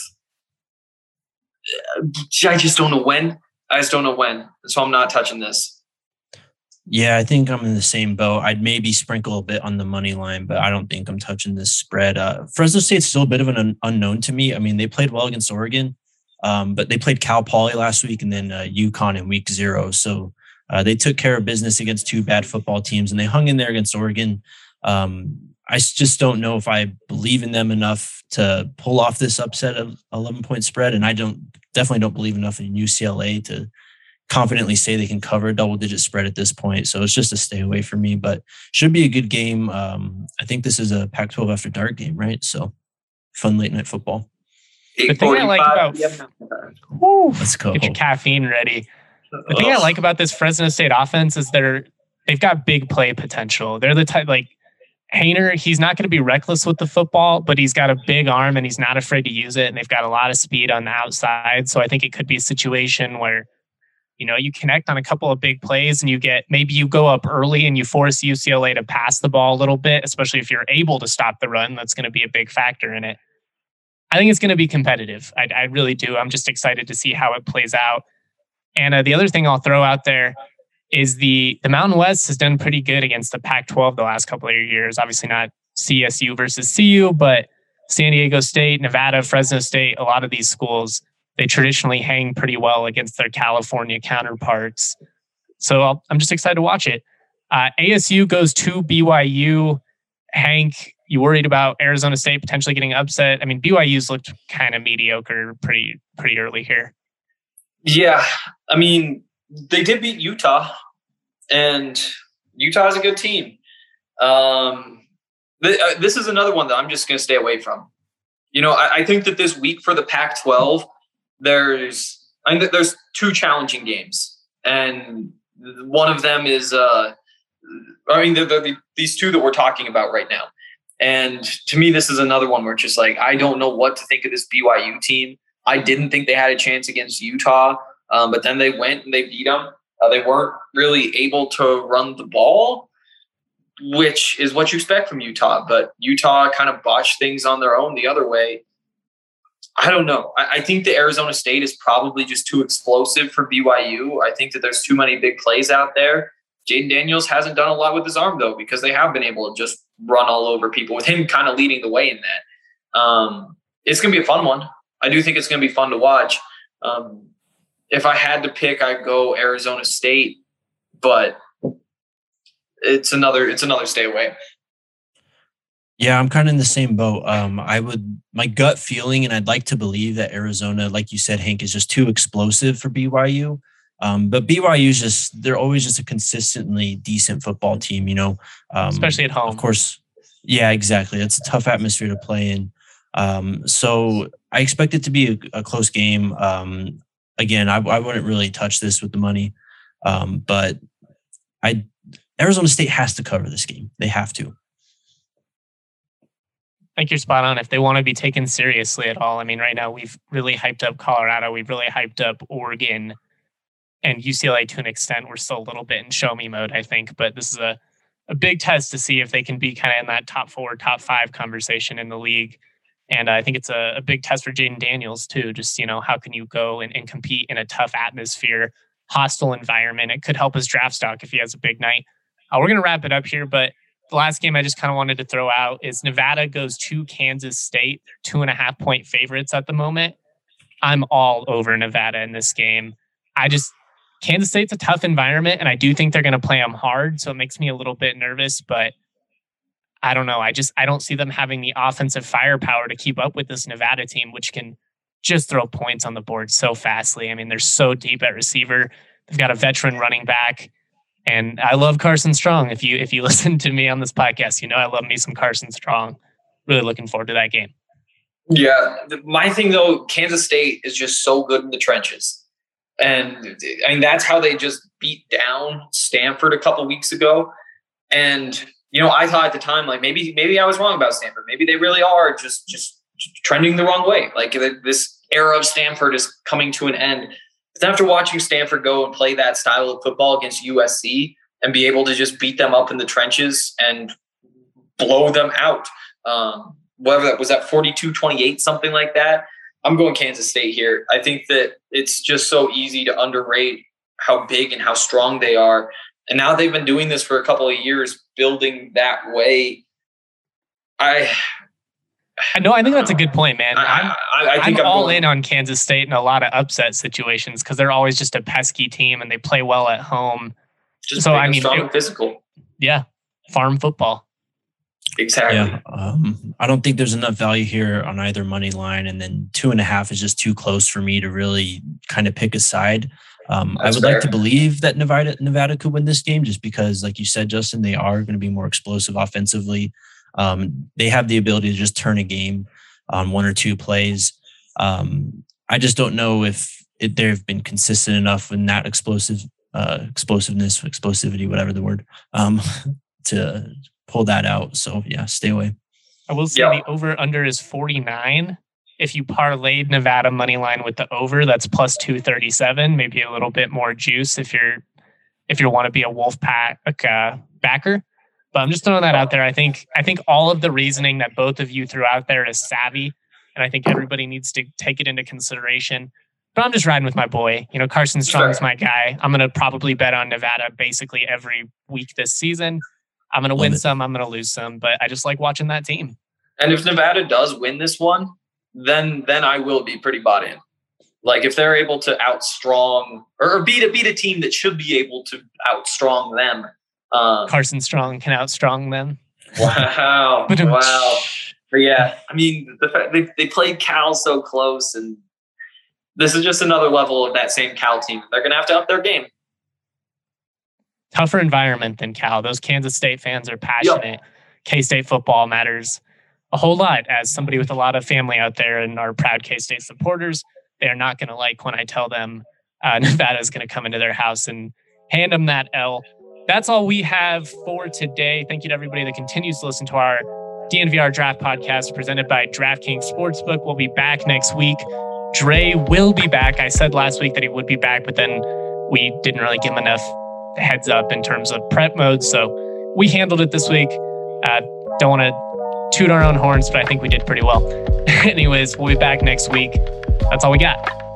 I just don't know when. So I'm not touching this. Yeah, I think I'm in the same boat. I'd maybe sprinkle a bit on the money line, but I don't think I'm touching this spread. Fresno State's still a bit of an unknown to me. I mean, they played well against Oregon, but they played Cal Poly last week and then UConn in week 0. So they took care of business against 2 bad football teams, and they hung in there against Oregon. I just don't know if I believe in them enough to pull off this upset of 11-point spread, and I definitely don't believe enough in UCLA to confidently say they can cover a double-digit spread at this point. So it's just a stay away for me, but should be a good game. I think this is a Pac-12 after dark game, right? So fun late night football. The thing I like about let's go. Get your caffeine ready. The thing I like about this Fresno State offense is they've got big play potential. They're the type like Haener. He's not going to be reckless with the football, but he's got a big arm and he's not afraid to use it. And they've got a lot of speed on the outside. So I think it could be a situation where you connect on a couple of big plays and maybe you go up early and you force UCLA to pass the ball a little bit, especially if you're able to stop the run. That's going to be a big factor in it. I think it's going to be competitive. I really do. I'm just excited to see how it plays out. And the other thing I'll throw out there is the Mountain West has done pretty good against the Pac-12 the last couple of years. Obviously not CSU versus CU, but San Diego State, Nevada, Fresno State, a lot of these schools, they traditionally hang pretty well against their California counterparts. So I'm just excited to watch it. ASU goes to BYU. Hank, you worried about Arizona State potentially getting upset? I mean, BYU's looked kind of mediocre pretty early here. Yeah, I mean, they did beat Utah, and Utah is a good team. This is another one that I'm just going to stay away from. I think that this week for the Pac-12, there's two challenging games, and one of them is these two that we're talking about right now. And to me, this is another one where it's just like, I don't know what to think of this BYU team. I didn't think they had a chance against Utah, but then they went and they beat them. They weren't really able to run the ball, which is what you expect from Utah. But Utah kind of botched things on their own the other way. I don't know. I think the Arizona State is probably just too explosive for BYU. I think that there's too many big plays out there. Jaden Daniels hasn't done a lot with his arm, though, because they have been able to just run all over people with him kind of leading the way in that. It's going to be a fun one. I do think it's going to be fun to watch. If I had to pick, I'd go Arizona State, but it's another stay away. Yeah, I'm kind of in the same boat. My gut feeling, and I'd like to believe that Arizona, like you said, Hank, is just too explosive for BYU. But BYU they're always just a consistently decent football team, especially at home. Of course. Yeah, exactly. It's a tough atmosphere to play in. So I expect it to be a close game. Again, I wouldn't really touch this with the money. But Arizona State has to cover this game. They have to. I think you're spot on. If they want to be taken seriously at all, I mean, right now we've really hyped up Colorado. We've really hyped up Oregon and UCLA to an extent. We're still a little bit in show me mode, I think. But this is a big test to see if they can be kind of in that top 4, top 5 conversation in the league. And I think it's a big test for Jaden Daniels, too. Just, how can you go and compete in a tough atmosphere, hostile environment? It could help his draft stock if he has a big night. We're going to wrap it up here, but the last game I just kind of wanted to throw out is Nevada goes to Kansas State. They're 2.5-point favorites at the moment. I'm all over Nevada in this game. Kansas State's a tough environment, and I do think they're going to play them hard, so it makes me a little bit nervous, but I don't know. I don't see them having the offensive firepower to keep up with this Nevada team, which can just throw points on the board so fastly. I mean, they're so deep at receiver. They've got a veteran running back. And I love Carson Strong. If you listen to me on this podcast, I love me some Carson Strong. Really looking forward to that game. Yeah. My thing, though, Kansas State is just so good in the trenches. And I mean, that's how they just beat down Stanford a couple weeks ago. And, I thought at the time, like, maybe I was wrong about Stanford. Maybe they really are just trending the wrong way. Like, this era of Stanford is coming to an end. But after watching Stanford go and play that style of football against USC and be able to just beat them up in the trenches and blow them out, whether that was at 42-28, something like that, I'm going Kansas State here. I think that it's just so easy to underrate how big and how strong they are. And now they've been doing this for a couple of years, building that way. I think that's a good point, man. I think I'm all in on Kansas State in a lot of upset situations because they're always just a pesky team and they play well at home. Just so strong and physical. Yeah, farm football. Exactly. Yeah, I don't think there's enough value here on either money line, and then 2.5 is just too close for me to really kind of pick a side. I would like to believe that Nevada could win this game just because, like you said, Justin, they are going to be more explosive offensively. They have the ability to just turn a game on 1 or 2 plays. I just don't know if they've been consistent enough in that explosivity, whatever the word, to pull that out. So yeah, stay away. I will say the over-under is 49. If you parlayed Nevada money line with the over, that's plus 237, maybe a little bit more juice if you want to be a Wolfpack backer. But I'm just throwing that out there. I think all of the reasoning that both of you threw out there is savvy, and and I think everybody needs to take it into consideration. But I'm just riding with my boy. Carson Strong's my guy. I'm going to probably bet on Nevada basically every week this season. I'm going to win some, I'm going to lose some, but I just like watching that team. And if Nevada does win this one, then I will be pretty bought in. Like if they're able to outstrong or beat a team that should be able to outstrong them. Carson Strong can outstrong them. Wow. Wow. But yeah, I mean, the fact they played Cal so close, and this is just another level of that same Cal team. They're going to have to up their game. Tougher environment than Cal. Those Kansas State fans are passionate. Yep. K-State football matters a whole lot. As somebody with a lot of family out there and are proud K-State supporters, they are not going to like when I tell them Nevada is going to come into their house and hand them that L. That's all we have for today. Thank you to everybody that continues to listen to our DNVR Draft Podcast presented by DraftKings Sportsbook. We'll be back next week. Dre will be back. I said last week that he would be back, but then we didn't really give him enough heads up in terms of prep mode. So we handled it this week. Don't want to toot our own horns, but I think we did pretty well. Anyways, we'll be back next week. That's all we got.